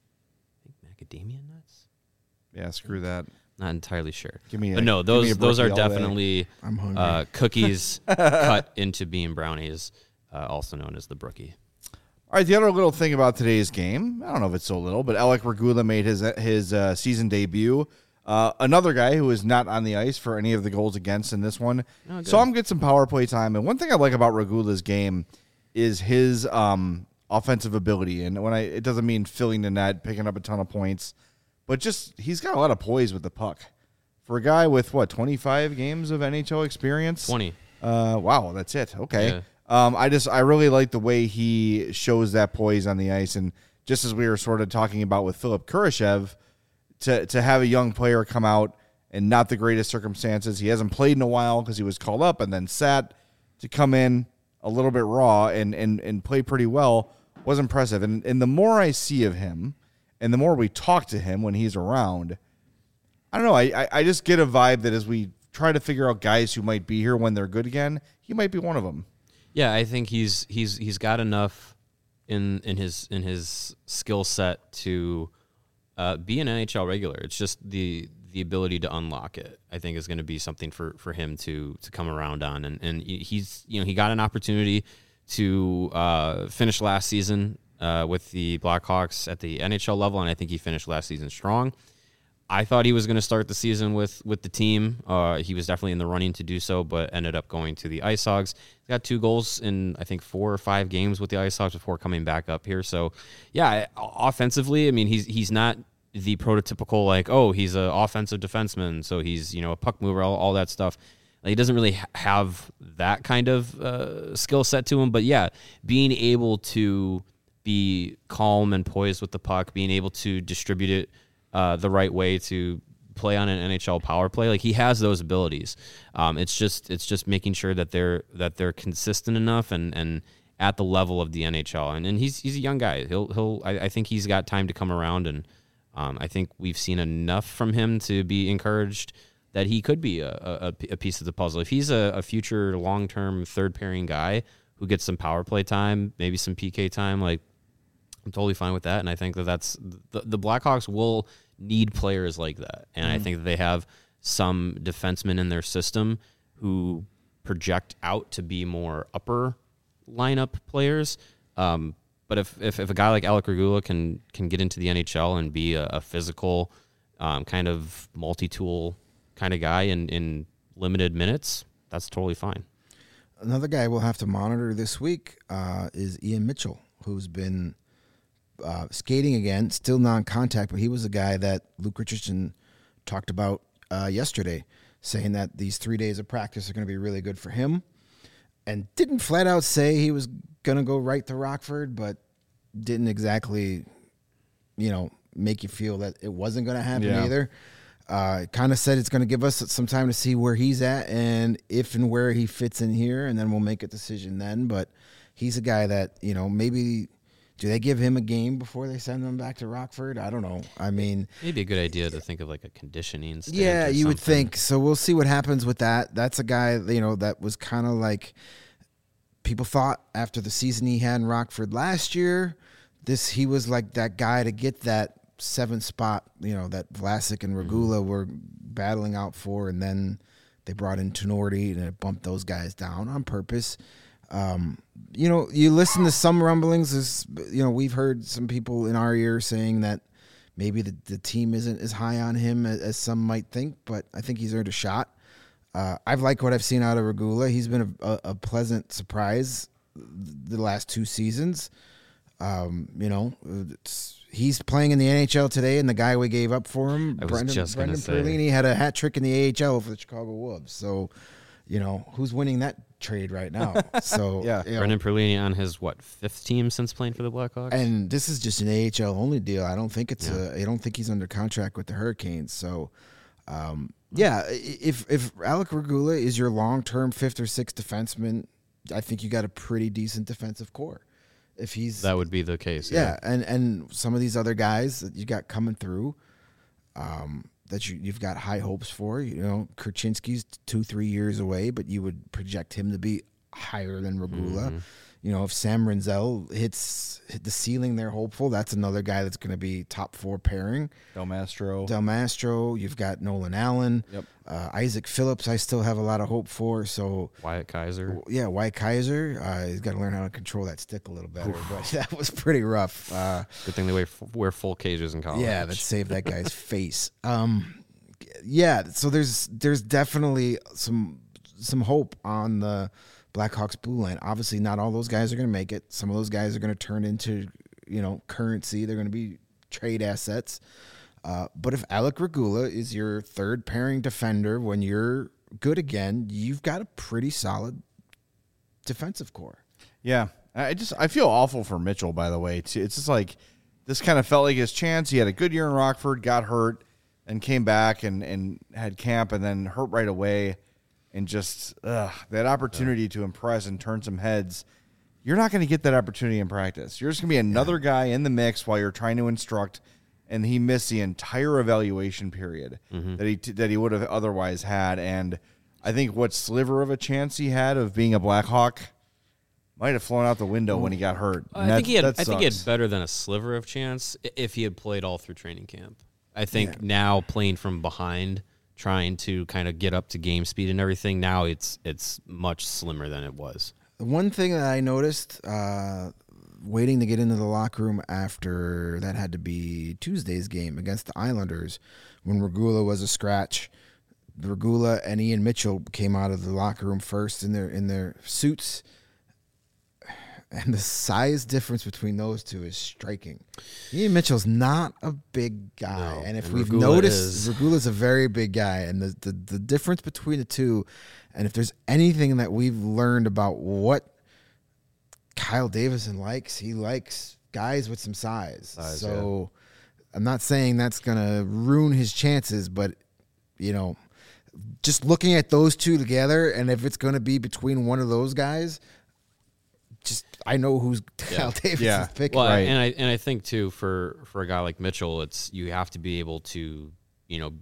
I think macadamia nuts. Yeah, screw that. Not entirely sure. Give me a- but no, give me those a those are brookie all day. definitely I'm hungry. uh, cookies cut into being brownies, uh, also known as the brookie. All right, the other little thing about today's game, I don't know if it's so little, but Alec Regula made his his uh, season debut. Uh, another guy who is not on the ice for any of the goals against in this one. Oh, Saw him get some power play time. And one thing I like about Regula's game is his um, offensive ability. And when I it doesn't mean filling the net, picking up a ton of points, but just he's got a lot of poise with the puck. For a guy with, what, twenty-five games of N H L experience? twenty. Uh, wow, that's it. Okay. Yeah. Um, I just I really like the way he shows that poise on the ice, and just as we were sort of talking about with Philip Kurashev, to to have a young player come out in not the greatest circumstances, he hasn't played in a while because he was called up and then sat, to come in a little bit raw and and and play pretty well was impressive. And and the more I see of him, and the more we talk to him when he's around, I don't know. I I, I just get a vibe that as we try to figure out guys who might be here when they're good again, he might be one of them. Yeah, I think he's he's he's got enough in in his in his skill set to uh, be an N H L regular. It's just the the ability to unlock it, I think, is going to be something for, for him to to come around on. And and he's you know he got an opportunity to uh, finish last season uh, with the Blackhawks at the N H L level, and I think he finished last season strong. I thought he was going to start the season with, with the team. Uh, he was definitely in the running to do so, but ended up going to the Ice Hogs. He got two goals in, I think, four or five games with the Ice Hogs before coming back up here. So, yeah, offensively, I mean, he's he's not the prototypical, like, oh, he's an offensive defenseman, so he's, you know, a puck mover, all, all that stuff. Like, he doesn't really ha- have that kind of uh, skill set to him. But, yeah, being able to be calm and poised with the puck, being able to distribute it Uh, the right way to play on an N H L power play, like he has those abilities. Um, it's just it's just making sure that they're that they're consistent enough and, and at the level of the N H L. And and he's he's a young guy. He'll he'll I, I think he's got time to come around, and um, I think we've seen enough from him to be encouraged that he could be a, a, a piece of the puzzle. If he's a, a future long term third pairing guy who gets some power play time, maybe some P K time, like. I'm totally fine with that, and I think that that's the, the Blackhawks will need players like that, and mm-hmm. I think that they have some defensemen in their system who project out to be more upper lineup players. Um, but if, if if a guy like Alec Regula can can get into the N H L and be a, a physical um, kind of multi-tool kind of guy in, in limited minutes, that's totally fine. Another guy we'll have to monitor this week uh, is Ian Mitchell, who's been Uh, skating again, still non-contact, but he was a guy that Luke Richardson talked about uh, yesterday, saying that these three days of practice are going to be really good for him, and didn't flat out say he was going to go right to Rockford, but didn't exactly, you know, make you feel that it wasn't going to happen yeah. either. Uh, kind of said it's going to give us some time to see where he's at and if and where he fits in here, and then we'll make a decision then. But he's a guy that, you know, maybe – do they give him a game before they send him back to Rockford? I don't know. I mean, maybe a good idea to think of like a conditioning stint. Yeah, you something. would think. So we'll see what happens with that. That's a guy, you know, that was kind of like people thought after the season he had in Rockford last year, this he was like that guy to get that seventh spot, you know, that Vlasic and Regula mm-hmm. were battling out for, and then they brought in Tenorti and it bumped those guys down on purpose. Um, you know, you listen to some rumblings. Is you know, we've heard some people in our ear saying that maybe the, the team isn't as high on him as, as some might think, but I think he's earned a shot. Uh, I've liked what I've seen out of Regula. He's been a, a, a pleasant surprise the last two seasons. Um, you know, it's, he's playing in the N H L today, and the guy we gave up for him, I was Brendan, just Brendan say. Perlini, had a hat trick in the A H L for the Chicago Wolves. So, you know, who's winning that trade right now? So yeah, you know, Brendan Perlini on his what fifth team since playing for the Blackhawks, and this is just an A H L only deal. I don't think it's yeah. a. I don't think he's under contract with the Hurricanes. So, um, Yeah, if if Alec Regula is your long-term fifth or sixth defenseman, I think you got a pretty decent defensive core. If he's that would be the case. Yeah, yeah. and and some of these other guys that you got coming through, um, that you you've got high hopes for. You know, Kurchinski's two three years away, but you would project him to be higher than Regula. Mm-hmm. You know, if Sam Renzel hits hit the ceiling, they're hopeful. That's another guy that's going to be top four pairing. Del Mastro. Del Mastro. You've got Nolan Allen. Yep. Uh, Isaac Phillips, I still have a lot of hope for. So Wyatt Kaiser. Yeah, Wyatt Kaiser. Uh, he's got to learn how to control that stick a little better. But that was pretty rough. Uh, Good thing they wear, wear full cages in college. Yeah, that saved that guy's face. Um, yeah, so there's there's definitely some some hope on the Blackhawks blue line. Obviously, not all those guys are going to make it. Some of those guys are going to turn into, you know, currency. They're going to be trade assets. Uh, but if Alec Regula is your third pairing defender when you're good again, you've got a pretty solid defensive core. Yeah, I just I feel awful for Mitchell. By the way, too. It's just like this kind of felt like his chance. He had a good year in Rockford, got hurt, and came back and and had camp, and then hurt right away. And just ugh, that opportunity to impress and turn some heads, you're not going to get that opportunity in practice. You're just going to be another yeah. guy in the mix while you're trying to instruct, and he missed the entire evaluation period mm-hmm. that he that he would have otherwise had. And I think what sliver of a chance he had of being a Blackhawk might have flown out the window when he got hurt. I that, think he had. I think he had better than a sliver of chance if he had played all through training camp. I think yeah. now playing from behind, trying to kind of get up to game speed and everything, now it's it's much slimmer than it was. The one thing that I noticed, uh, waiting to get into the locker room after that had to be Tuesday's game against the Islanders, when Regula was a scratch, Regula and Ian Mitchell came out of the locker room first in their in their suits, and the size difference between those two is striking. Ian Mitchell's not a big guy, no, and if and we've Regula noticed, is. Regula's a very big guy, and the, the the difference between the two, and if there's anything that we've learned about what Kyle Davison likes, he likes guys with some size. size so yeah. I'm not saying that's gonna ruin his chances, but you know, just looking at those two together, and if it's gonna be between one of those guys, just I know who's yeah. Kyle Davis yeah. is picking. Well, right. and I and I think too for, for a guy like Mitchell, it's you have to be able to, you know,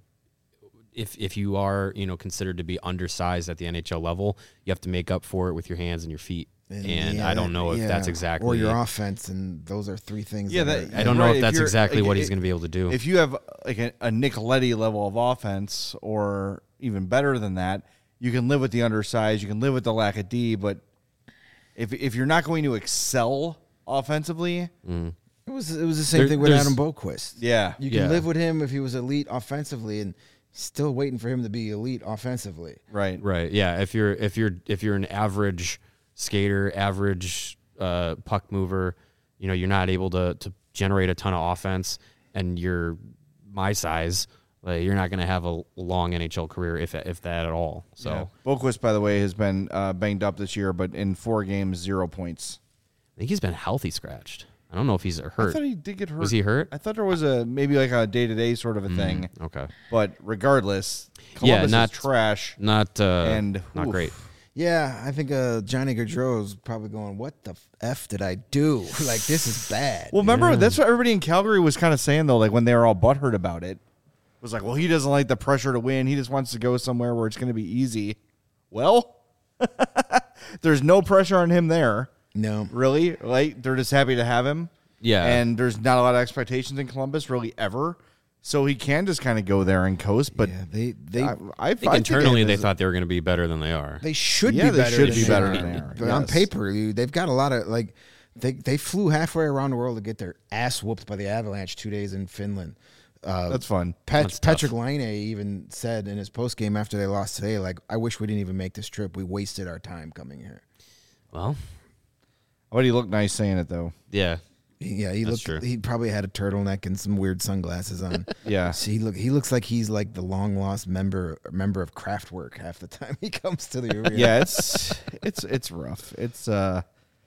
if if you are, you know, considered to be undersized at the N H L level, you have to make up for it with your hands and your feet. And, and yeah, I don't know if yeah. that's exactly or your offense, and those are three things. Yeah, that that, are, I don't right, know if that's if exactly like, what he's going to be able to do. If you have like a, a Nicoletti level of offense, or even better than that, you can live with the undersized. You can live with the lack of D, but If if you're not going to excel offensively, mm. it was it was the same there, thing with Adam Boquist. Yeah, you can yeah. live with him if he was elite offensively, and still waiting for him to be elite offensively. Right, right, yeah. If you're if you're if you're an average skater, average uh, puck mover, you know, you're not able to to generate a ton of offense, and you're my size. Like, you're not going to have a long N H L career, if if that at all. So, yeah. Boquist, by the way, has been uh, banged up this year, but in four games, zero points. I think he's been healthy scratched. I don't know if he's hurt. I thought he did get hurt. Was he hurt? I thought there was a maybe like a day to day sort of a mm, thing. Okay, but regardless, Columbus yeah, not is trash. Not uh, and not oof. great. Yeah, I think uh, Johnny Gaudreau's probably going, what the F did I do? Like, this is bad. Well, remember, yeah. that's what everybody in Calgary was kind of saying, though, like when they were all butthurt about it. It was like, well, he doesn't like the pressure to win. He just wants to go somewhere where it's going to be easy. Well, there's no pressure on him there. No. Really? Like, they're just happy to have him. Yeah. And there's not a lot of expectations in Columbus, really, ever. So he can just kind of go there and coast. But yeah, they, they, I, I, I think I internally think they thought they were going to be better than they are. They should yeah, be they better should than be they better are. than they are. But yes. on paper, they've got a lot of, like, they, they flew halfway around the world to get their ass whooped by the Avalanche two days in Finland. Uh, That's fun. Pat, That's Patrick Laine even said in his postgame after they lost today, like, I wish we didn't even make this trip. We wasted our time coming here. Well, but he looked nice saying it, though. Yeah. Yeah, he That's looked. true. He probably had a turtleneck and some weird sunglasses on. Yeah, so he look. He looks like he's like the long lost member member of Kraftwerk half the time he comes to the arena. Yeah, it's it's it's rough. It's uh,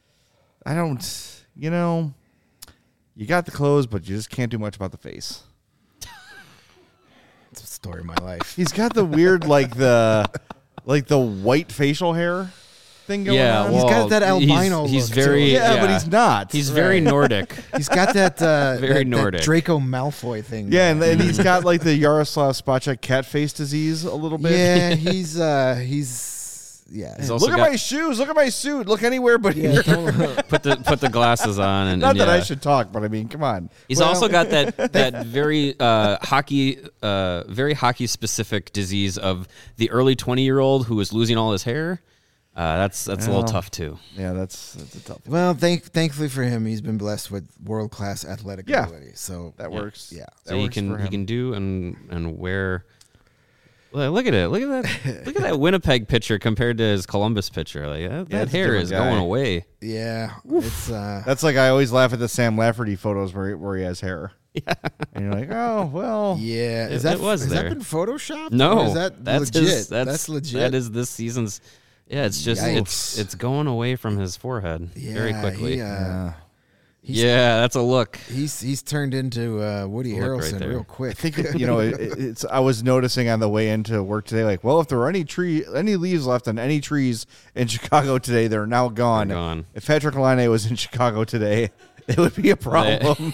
I don't, you know, you got the clothes, but you just can't do much about the face. It's story of my life. He's got the weird, like the, like the white facial hair thing going yeah, on. Well, he's got that albino he's, he's look very, to him. Yeah, yeah, but he's not. He's Right. very Nordic. He's got that uh, Very that, that Nordic. Draco Malfoy thing. Yeah, and, and he's got like the Yaroslav Spacek cat face disease a little bit. Yeah, he's uh, he's yeah. He's also Look at got- my shoes. Look at my suit. Look anywhere but yeah, here. don't- put the put the glasses on, and, Not and that yeah. I should talk, but I mean, come on. He's Well, also got that that very uh, hockey, uh, very hockey specific disease of the early twenty year old who is losing all his hair. Uh, that's that's a Well. little tough too. Yeah, that's that's a tough. well, thank thankfully for him, he's been blessed with world class athletic Yeah. ability. So That Yeah. works. Yeah. That So he works can for he him. can do and and wear. Look look at it! Look at that! Look at that Winnipeg picture compared to his Columbus picture. Like that, that it's a hair different is guy. going away. yeah, it's uh, That's like I always laugh at the Sam Lafferty photos where he, where he has hair. Yeah, and you're like, oh well. yeah. It- Is that it was has there. that been photoshopped? No, or is that that's legit? his, that's, that's legit. That is this season's. Yeah, it's just it's Yikes. it's going away from his forehead yeah, very quickly. He, uh, Yeah. he's, yeah, that's a look. he's he's turned into uh, Woody Look right Harrelson there. real quick. I think you know it, it's. I was noticing on the way into work today, like, well, if there were any tree, any leaves left on any trees in Chicago today, they're now gone. They're gone. If Patrick Laine was in Chicago today, it would be a problem.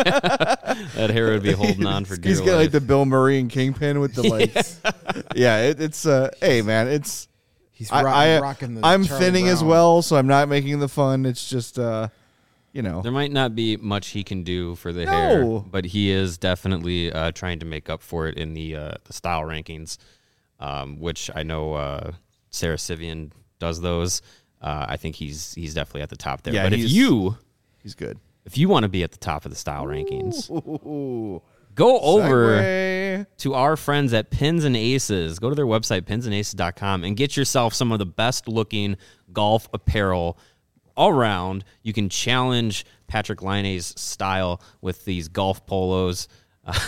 That hair would be holding on for dear He's got life. like the Bill Murray and Kingpin with the like. Yeah, it, it's. Uh, hey, man, it's. He's I, rock, I, rocking the. I'm Charlie thinning as Brown. well, so I'm not making the fun. It's just, uh, you know. There might not be much he can do for the No. hair, but he is definitely uh, trying to make up for it in the uh, the style rankings, um, which I know uh, Sarah Sivian does those. Uh, I think he's he's definitely at the top there. Yeah, but if he's- you He's good. if you want to be at the top of the style rankings, Ooh, go over segue. to our friends at Pins and Aces. Go to their website, pins and aces dot com, and get yourself some of the best looking golf apparel all around. You can challenge Patrick Laine's style with these golf polos. Uh,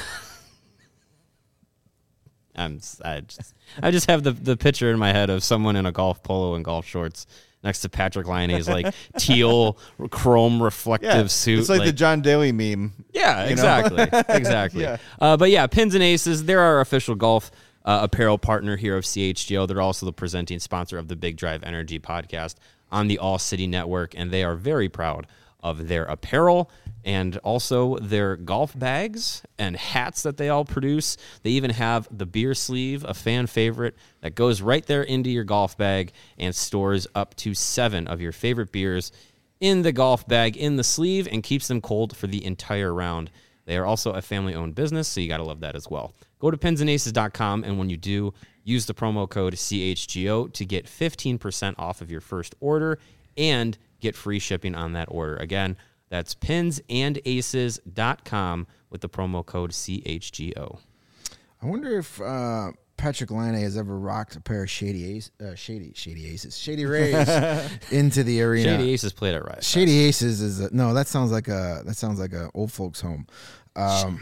I'm I just I just have the, the picture in my head of someone in a golf polo and golf shorts next to Patrick Laine's like teal chrome reflective Yeah, suit. it's like, the John Daly meme. Yeah, you know? exactly, exactly. Yeah. Uh, but yeah, Pins and Aces, they're our official golf uh, apparel partner here of C H G O. They're also the presenting sponsor of the Big Drive Energy podcast on the All City Network, and they are very proud of their apparel and also their golf bags and hats that they all produce. They even have the beer sleeve, a fan favorite, that goes right there into your golf bag and stores up to seven of your favorite beers in the golf bag, in the sleeve, and keeps them cold for the entire round. They are also a family-owned business, so you got to love that as well. Go to pins and aces dot com, and when you do, use the promo code C H G O to get fifteen percent off of your first order and get free shipping on that order. Again, that's pins and aces dot com with the promo code C H G O. I wonder if uh, Patrick Laine has ever rocked a pair of shady ace, uh, shady shady aces, shady rays into the arena. Shady Aces played it right. Shady Aces is a, no. That sounds like a that sounds like a old folks home. Um,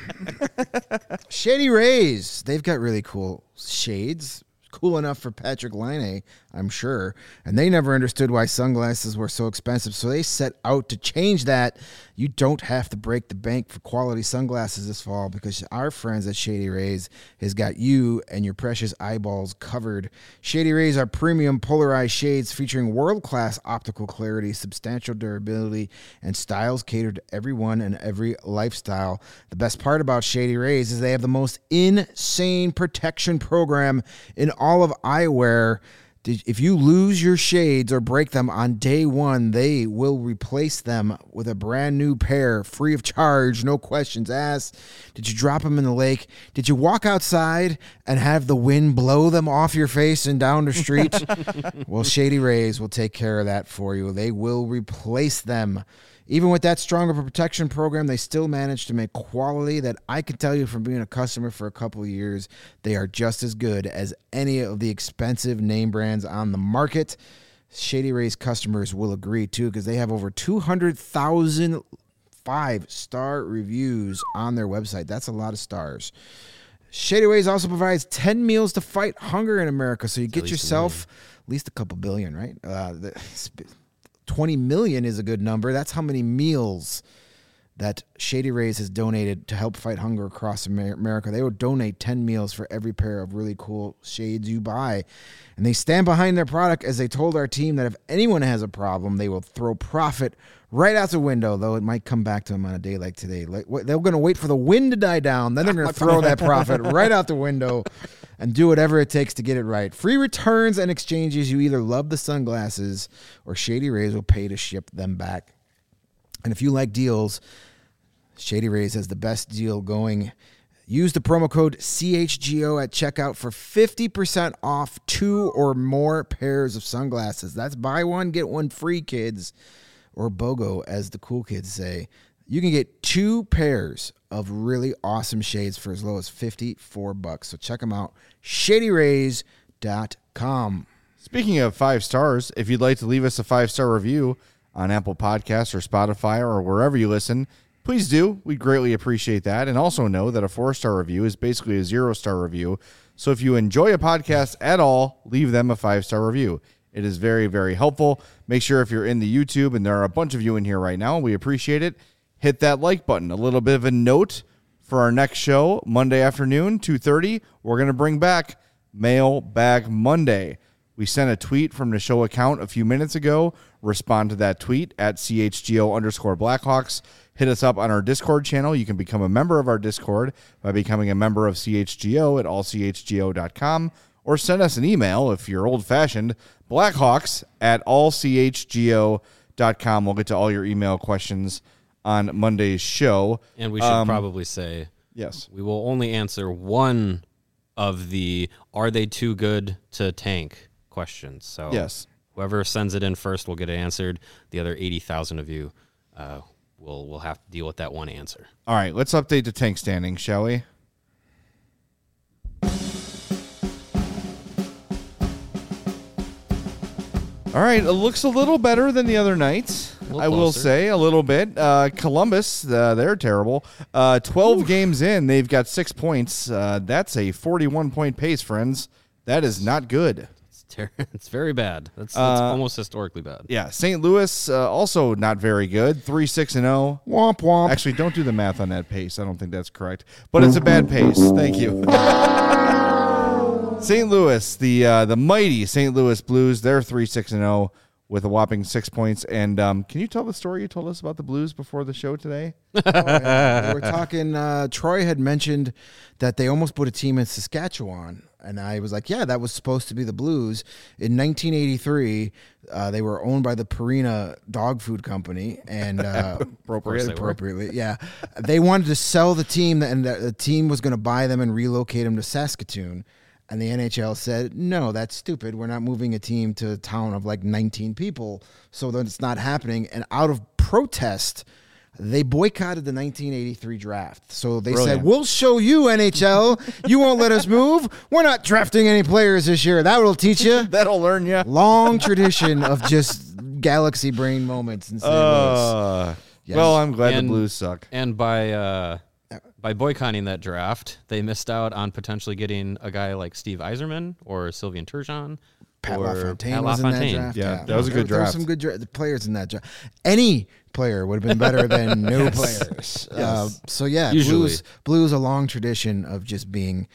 Shady Rays, they've got really cool shades. Cool enough for Patrick Laine, I'm sure. And they never understood why sunglasses were so expensive, so they set out to change that. You don't have to break the bank for quality sunglasses this fall because our friends at Shady Rays has got you and your precious eyeballs covered. Shady Rays are premium polarized shades featuring world-class optical clarity, substantial durability, and styles catered to everyone and every lifestyle. The best part about Shady Rays is they have the most insane protection program in all of eyewear. If you lose your shades or break them on day one, they will replace them with a brand new pair, free of charge, no questions asked. Did you drop them in the lake? Did you walk outside and have the wind blow them off your face and down the street? Well, Shady Rays will take care of that for you. They will replace them. Even with that stronger protection program, they still manage to make quality that I can tell you from being a customer for a couple of years, they are just as good as any of the expensive name brands on the market. Shady Rays customers will agree, too, because they have over two hundred thousand five-star reviews on their website. That's a lot of stars. Shady Rays also provides ten meals to fight hunger in America, so you get yourself at least a couple billion, right? Uh, the, twenty million is a good number. That's how many meals that Shady Rays has donated to help fight hunger across America. They will donate ten meals for every pair of really cool shades you buy. And they stand behind their product, as they told our team that if anyone has a problem, they will throw profit right out the window, though it might come back to them on a day like today. Like, they're going to wait for the wind to die down, then they're going to throw that profit right out the window and do whatever it takes to get it right. Free returns and exchanges. You either love the sunglasses or Shady Rays will pay to ship them back. And if you like deals, Shady Rays has the best deal going. Use the promo code C H G O at checkout for fifty percent off two or more pairs of sunglasses. That's buy one, get one free, kids. Or BOGO, as the cool kids say. You can get two pairs of really awesome shades for as low as fifty-four bucks. So check them out, shady rays dot com. Speaking of five stars, if you'd like to leave us a five-star review on Apple Podcasts or Spotify or wherever you listen, please do. We'd greatly appreciate that. And also know that a four-star review is basically a zero-star review. So if you enjoy a podcast at all, leave them a five-star review. It is very, very helpful. Make sure if you're in the YouTube, and there are a bunch of you in here right now, we appreciate it, hit that like button. A little bit of a note for our next show, Monday afternoon, two thirty, we're going to bring back Mailbag Monday. We sent a tweet from the show account a few minutes ago. Respond to that tweet at C H G O underscore Blackhawks. Hit us up on our Discord channel. You can become a member of our Discord by becoming a member of C H G O at all c h g o dot com. Or send us an email if you're old-fashioned, Blackhawks at all c h g o dot com. We'll get to all your email questions on Monday's show. And we should um, probably say, yes, we will only answer one of the are they too good to tank questions. So yes, whoever sends it in first will get it answered. The other eighty thousand of you uh, will will have to deal with that one answer. All right, let's update the tank standing, shall we? All right, it looks a little better than the other nights. I will say a little bit. Uh, Columbus, uh, they're terrible. Uh, twelve Oof. games in, they've got six points. Uh, that's a forty-one point pace, friends. That is not good. It's, ter- it's very bad. That's, that's uh, almost historically bad. Yeah, Saint Louis, uh, also not very good. three six and oh. Womp womp. Actually, don't do the math on that pace. I don't think that's correct. But it's a bad pace. Thank you. Saint Louis, the uh, the mighty Saint Louis Blues, they're three six and oh with a whopping six points. And um, can you tell the story you told us about the Blues before the show today? oh, yeah. We were talking, uh, Troy had mentioned that they almost put a team in Saskatchewan. And I was like, yeah, that was supposed to be the Blues. In nineteen eighty-three, uh, they were owned by the Purina Dog Food Company. And uh, appropriately, appropriately yeah. They wanted to sell the team, and the team was going to buy them and relocate them to Saskatoon. And the N H L said, no, that's stupid. We're not moving a team to a town of like nineteen people, so that it's not happening. And out of protest, they boycotted the nineteen eighty-three draft. So they Brilliant. said, we'll show you, N H L. You won't let us move. We're not drafting any players this year. That will teach you. That'll learn you. Long tradition of just galaxy brain moments in Saint uh, Louis. Yes. Well, I'm glad and, the Blues suck. And by... Uh By boycotting that draft, they missed out on potentially getting a guy like Steve Yzerman or Sylvain Turgeon. Pat or LaFontaine Pat was LaFontaine. in that draft. Yeah, Yeah, that was a good there, draft. There were some good dra- players in that draft. Any player would have been better than no yes. players. Yes. Uh, so, yeah, Usually. Blues, Blues a long tradition of just being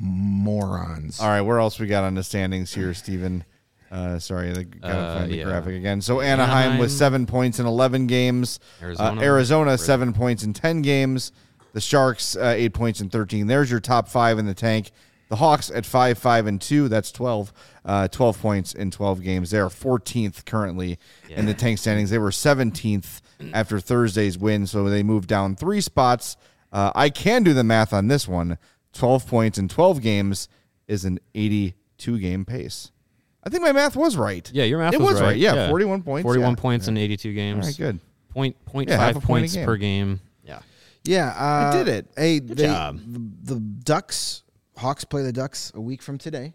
morons. All right, where else we got on the standings here, Steven? Uh, sorry, I got to Uh, find the yeah. graphic again. So Anaheim, Anaheim. with seven points in eleven games. Arizona. Uh, Arizona, Right. seven points in ten games. The Sharks, uh, eight points in thirteen. There's your top five in the tank. The Hawks at five, five, and two. That's twelve. Uh, twelve points in twelve games. They are fourteenth currently Yeah. in the tank standings. They were seventeenth after Thursday's win, so they moved down three spots. Uh, I can do the math on this one. twelve points in twelve games is an eighty-two game pace. I think my math was right. Yeah, your math it was, was right. right. Yeah, yeah. forty-one points. forty-one yeah. points yeah. in eighty-two games. All right, good. Point, point Yeah, half five a point a points game. per game. Yeah. Yeah. Uh, I did it. Hey, Good they, job. The, the Ducks, Hawks play the Ducks a week from today.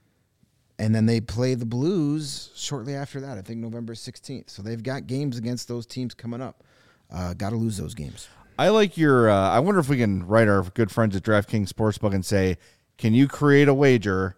And then they play the Blues shortly after that, I think November sixteenth. So they've got games against those teams coming up. Uh, got to lose those games. I like your, uh, I wonder if we can write our good friends at DraftKings Sportsbook and say, can you create a wager?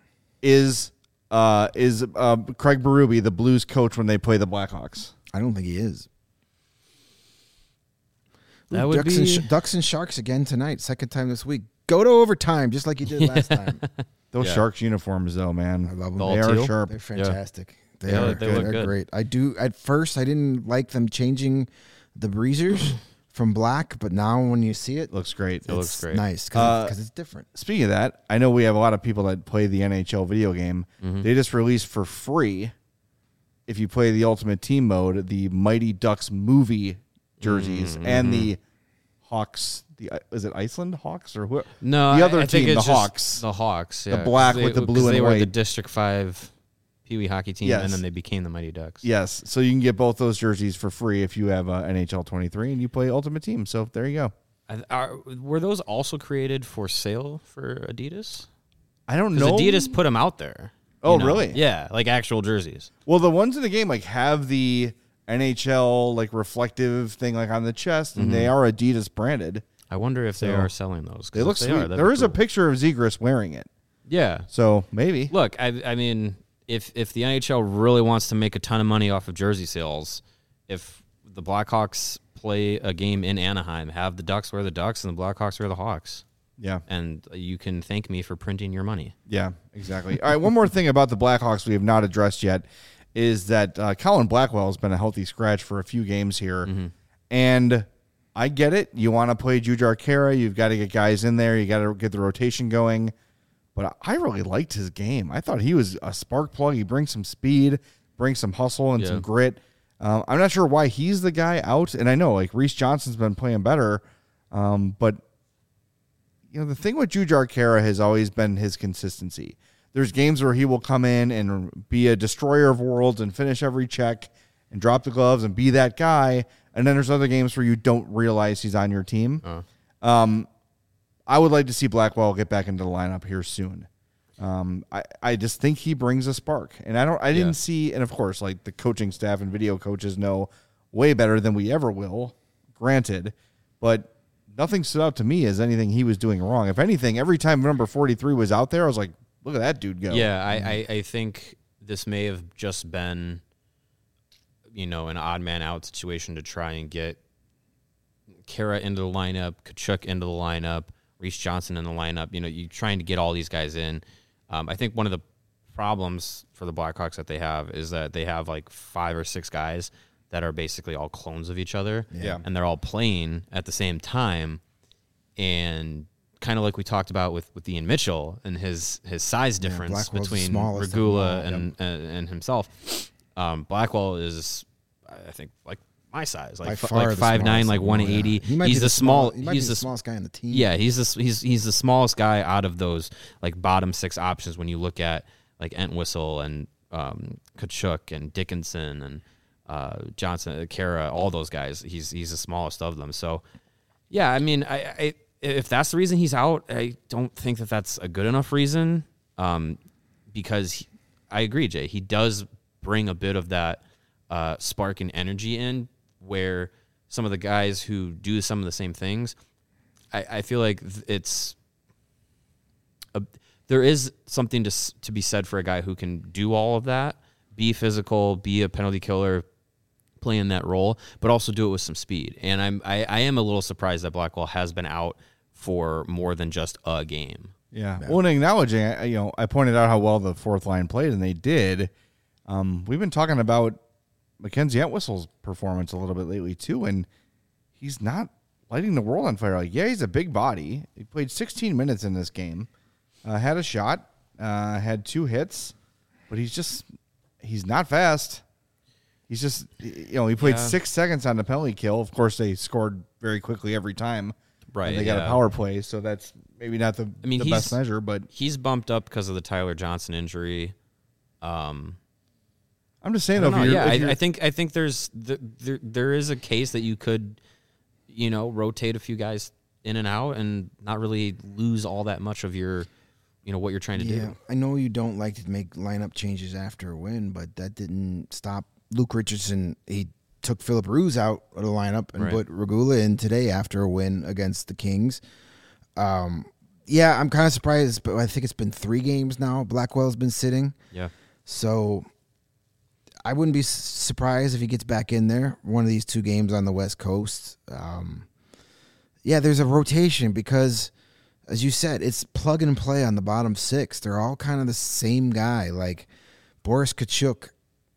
Is uh, is uh, Craig Berube the Blues coach when they play the Blackhawks? I don't think he is. That Ooh, would Ducks, be... and sh- Ducks and Sharks again tonight. Second time this week. Go to overtime just like you did last time. Those yeah. Sharks uniforms, though, man. I love them. The they are sharp. They're fantastic. Yeah. They yeah, are they good. look They're good. great. I do. At first, I didn't like them changing the breezers from black, but now when you see it, looks great. It's it looks great. Nice because uh, it's different. Speaking of that, I know we have a lot of people that play the N H L video game. Mm-hmm. They just released for free, if you play the Ultimate Team mode, the Mighty Ducks movie jerseys mm-hmm. and the Hawks. The is it Iceland Hawks or who? No, the other I, I team, think the it's Hawks, the Hawks, yeah, the black they, with the blue and they white. Were the District Five Pee Wee hockey team, yes. and then they became the Mighty Ducks. Yes, so you can get both those jerseys for free if you have uh, N H L twenty-three and you play Ultimate Team. So there you go. Are, were those also created for sale for Adidas? I don't know. Adidas put them out there. Oh, know? really? Yeah, like actual jerseys. Well, the ones in the game like have the N H L like reflective thing like on the chest, and mm-hmm. they are Adidas branded. I wonder if so, they are selling those. They look they sweet. Are, there is cool. a picture of Zegras wearing it. Yeah. So maybe. Look, I, I mean, if if the N H L really wants to make a ton of money off of jersey sales, if the Blackhawks play a game in Anaheim, have the Ducks wear the Ducks and the Blackhawks wear the Hawks. Yeah. And you can thank me for printing your money. Yeah, exactly. All right, one more thing about the Blackhawks we have not addressed yet is that uh, Colin Blackwell has been a healthy scratch for a few games here. Mm-hmm. And I get it. You want to play Jujhar Khaira. You've got to get guys in there. You got to get the rotation going. But I really liked his game. I thought he was a spark plug. He brings some speed, brings some hustle and yeah. some grit. Um, I'm not sure why he's the guy out. And I know, like, Reese Johnson's been playing better. Um, but, you know, the thing with Jujhar Khaira has always been his consistency. There's games where he will come in and be a destroyer of worlds and finish every check and drop the gloves and be that guy. And then there's other games where you don't realize he's on your team. Uh. Um, I would like to see Blackwell get back into the lineup here soon. Um, I, I just think he brings a spark. And I don't I didn't yeah. see, and of course, like the coaching staff and video coaches know way better than we ever will, granted. But nothing stood out to me as anything he was doing wrong. If anything, every time number forty-three was out there, I was like, look at that dude go. Yeah, I, I, I think this may have just been, you know, an odd man out situation to try and get Khaira into the lineup, Tkachuk into the lineup, Reese Johnson in the lineup. You know, you're trying to get all these guys in. Um, I think one of the problems for the Blackhawks that they have is that they have like five or six guys that are basically all clones of each other. Yeah. And they're all playing at the same time. And kind of like we talked about with, with Ian Mitchell and his, his size difference yeah, between Regula and, yep. and and himself. Um, Blackwell is, I think, like my size, like f- like five nine, like one eighty. Yeah. He might he's be the, the small. He might he's be the, the smallest guy on the team. Yeah, he's the he's he's the smallest guy out of those like bottom six options when you look at like Entwistle and um, Tkachuk and Dickinson and uh, Johnson, Khaira, all those guys. He's he's the smallest of them. So yeah, I mean, I. I if that's the reason he's out, I don't think that that's a good enough reason. Um, because he, I agree, Jay. He does bring a bit of that uh, spark and energy in, where some of the guys who do some of the same things, I, I feel like it's a, there is something to to be said for a guy who can do all of that, be physical, be a penalty killer, play in that role, but also do it with some speed. And I'm I, I am a little surprised that Blackwell has been out for more than just a game. Yeah. yeah. Well, and acknowledging, you know, I pointed out how well the fourth line played, and they did. Um, we've been talking about Mackenzie Entwistle's performance a little bit lately too, and he's not lighting the world on fire. Like, yeah, he's a big body. He played sixteen minutes in this game, uh, had a shot, uh, had two hits, but he's just he's not fast. He's just, you know, he played yeah. six seconds on the penalty kill. Of course, they scored very quickly every time. Right. They got yeah. a power play, so that's maybe not the, I mean, the best measure, but he's bumped up because of the Tyler Johnson injury. Um, I'm just saying, I though, if you're, yeah, if you're, I, I think I think there's the, there there is a case that you could, you know, rotate a few guys in and out and not really lose all that much of your, you know, what you're trying to yeah, do. I know you don't like to make lineup changes after a win, but that didn't stop Luke Richardson. He took Philip Ruse out of the lineup and right. put Regula in today after a win against the Kings. Um, yeah, I'm kind of surprised, but I think it's been three games now. Blackwell's been sitting. Yeah. So I wouldn't be surprised if he gets back in there one of these two games on the West Coast. Um, yeah, there's a rotation because, as you said, it's plug and play on the bottom six. They're all kind of the same guy. Like Boris Tkachuk,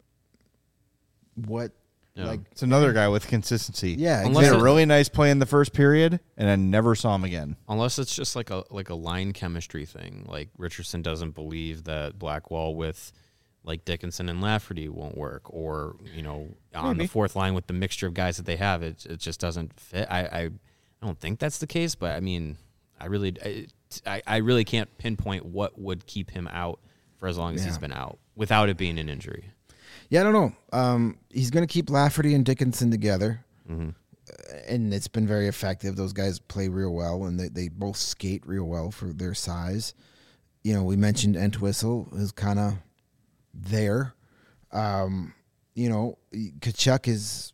what? Yeah. Like It's another guy with consistency. Yeah, He Unless had a it- really nice play in the first period, and I never saw him again. Unless it's just like a like a line chemistry thing. Like Richardson doesn't believe that Blackwell with like Dickinson and Lafferty won't work, or you know on Maybe. the fourth line with the mixture of guys that they have, it it just doesn't fit. I I, I don't think that's the case, but I mean, I really I, I really can't pinpoint what would keep him out for as long as Yeah. he's been out without it being an injury. Yeah, I don't know. Um, he's going to keep Lafferty and Dickinson together, Mm-hmm. uh, and it's been very effective. Those guys play real well, and they, they both skate real well for their size. You know, we mentioned Entwistle is kind of there. Um, you know, Tkachuk is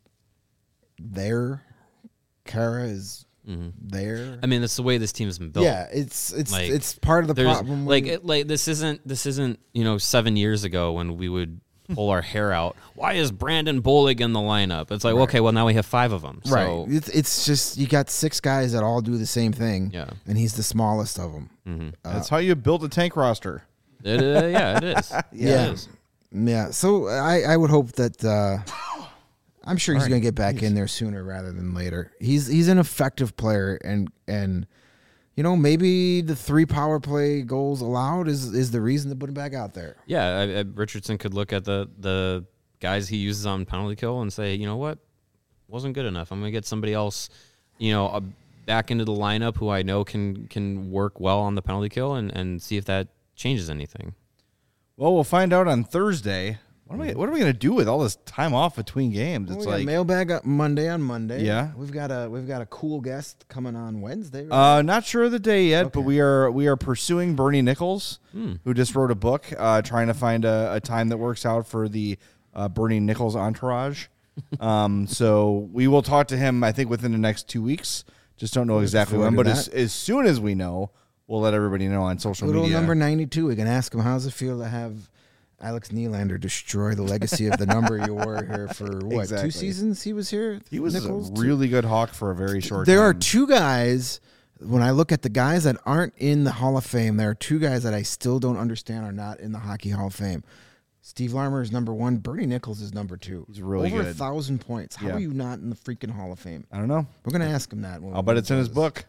there. Kara is Mm-hmm. there. I mean, that's the way this team's been built. Yeah, it's it's Like, it's part of the There's problem. like when- it, like this isn't this isn't you know seven years ago when we would pull our hair out. Why is Brandon Bollig in the lineup? It's like Right. okay, well now we have five of them. right. So, It's it's just you got six guys that all do the same thing. Yeah. and he's the smallest of them. mm-hmm. That's how you build a tank roster. it, uh, yeah, it is. Yeah. It is. Yeah, so I, I would hope that uh, I'm sure he's All right, going to get back in there sooner rather than later. He's he's an effective player, and and you know maybe the three power play goals allowed is is the reason to put him back out there. Yeah, I, I, Richardson could look at the the guys he uses on penalty kill and say, you know what, wasn't good enough. I'm gonna get somebody else, you know, uh, back into the lineup who I know can can work well on the penalty kill and, and see if that changes anything. Well, we'll find out on Thursday. What am I, what are we going to do with all this time off between games? Well, It's we got like mailbag up Monday on Monday. Yeah. we've got a we've got a cool guest coming on Wednesday. Right? Uh, not sure of the day yet, but Okay. we are we are pursuing Bernie Nichols, Hmm. who just wrote a book, uh, trying to find a, a time that works out for the uh, Bernie Nichols entourage. um, so we will talk to him, I think, within the next two weeks. Just don't know exactly forward when, to but as, that. as soon as we know, we'll let everybody know on social Little media. number ninety-two. We can ask him how's it feel to have Alex Nylander destroy the legacy of the number you wore here for what Exactly. two seasons he was here. He was Nichols? a Two- really good Hawk for a very short There time. are two guys. When I look at the guys that aren't in the Hall of Fame, there are two guys that I still don't understand are not in the Hockey Hall of Fame. Steve Larmer is number one. Bernie Nichols is number two. He's really Over good. a thousand points. How Yeah. are you not in the freaking Hall of Fame? I don't know. We're gonna ask him that. When I'll we bet do it's in his those. book.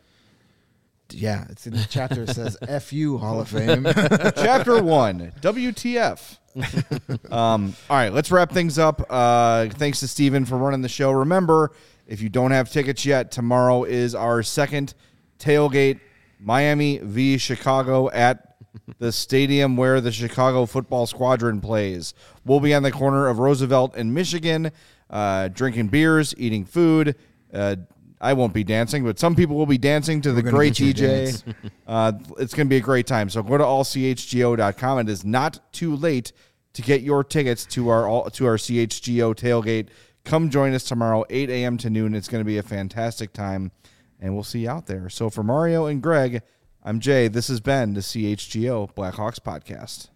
Yeah, it's in the chapter. It says "F you Hall of Fame." Chapter one, W T F. um, all right, let's wrap things up. Uh, thanks to Steven for running the show. Remember, if you don't have tickets yet, tomorrow is our second tailgate, Miami v. Chicago at the stadium where the Chicago Football Squadron plays. We'll be on the corner of Roosevelt and Michigan, uh, drinking beers, eating food. Uh, I won't be dancing, but some people will be dancing to the gonna great get you D to J. dance. Uh, it's going to be a great time. So go to all c h g o dot com. It is not too late to get your tickets to our all, to our C H G O tailgate. Come join us tomorrow, eight a.m. to noon. It's going to be a fantastic time, and we'll see you out there. So for Mario and Greg, I'm Jay. This has been the C H G O Blackhawks podcast.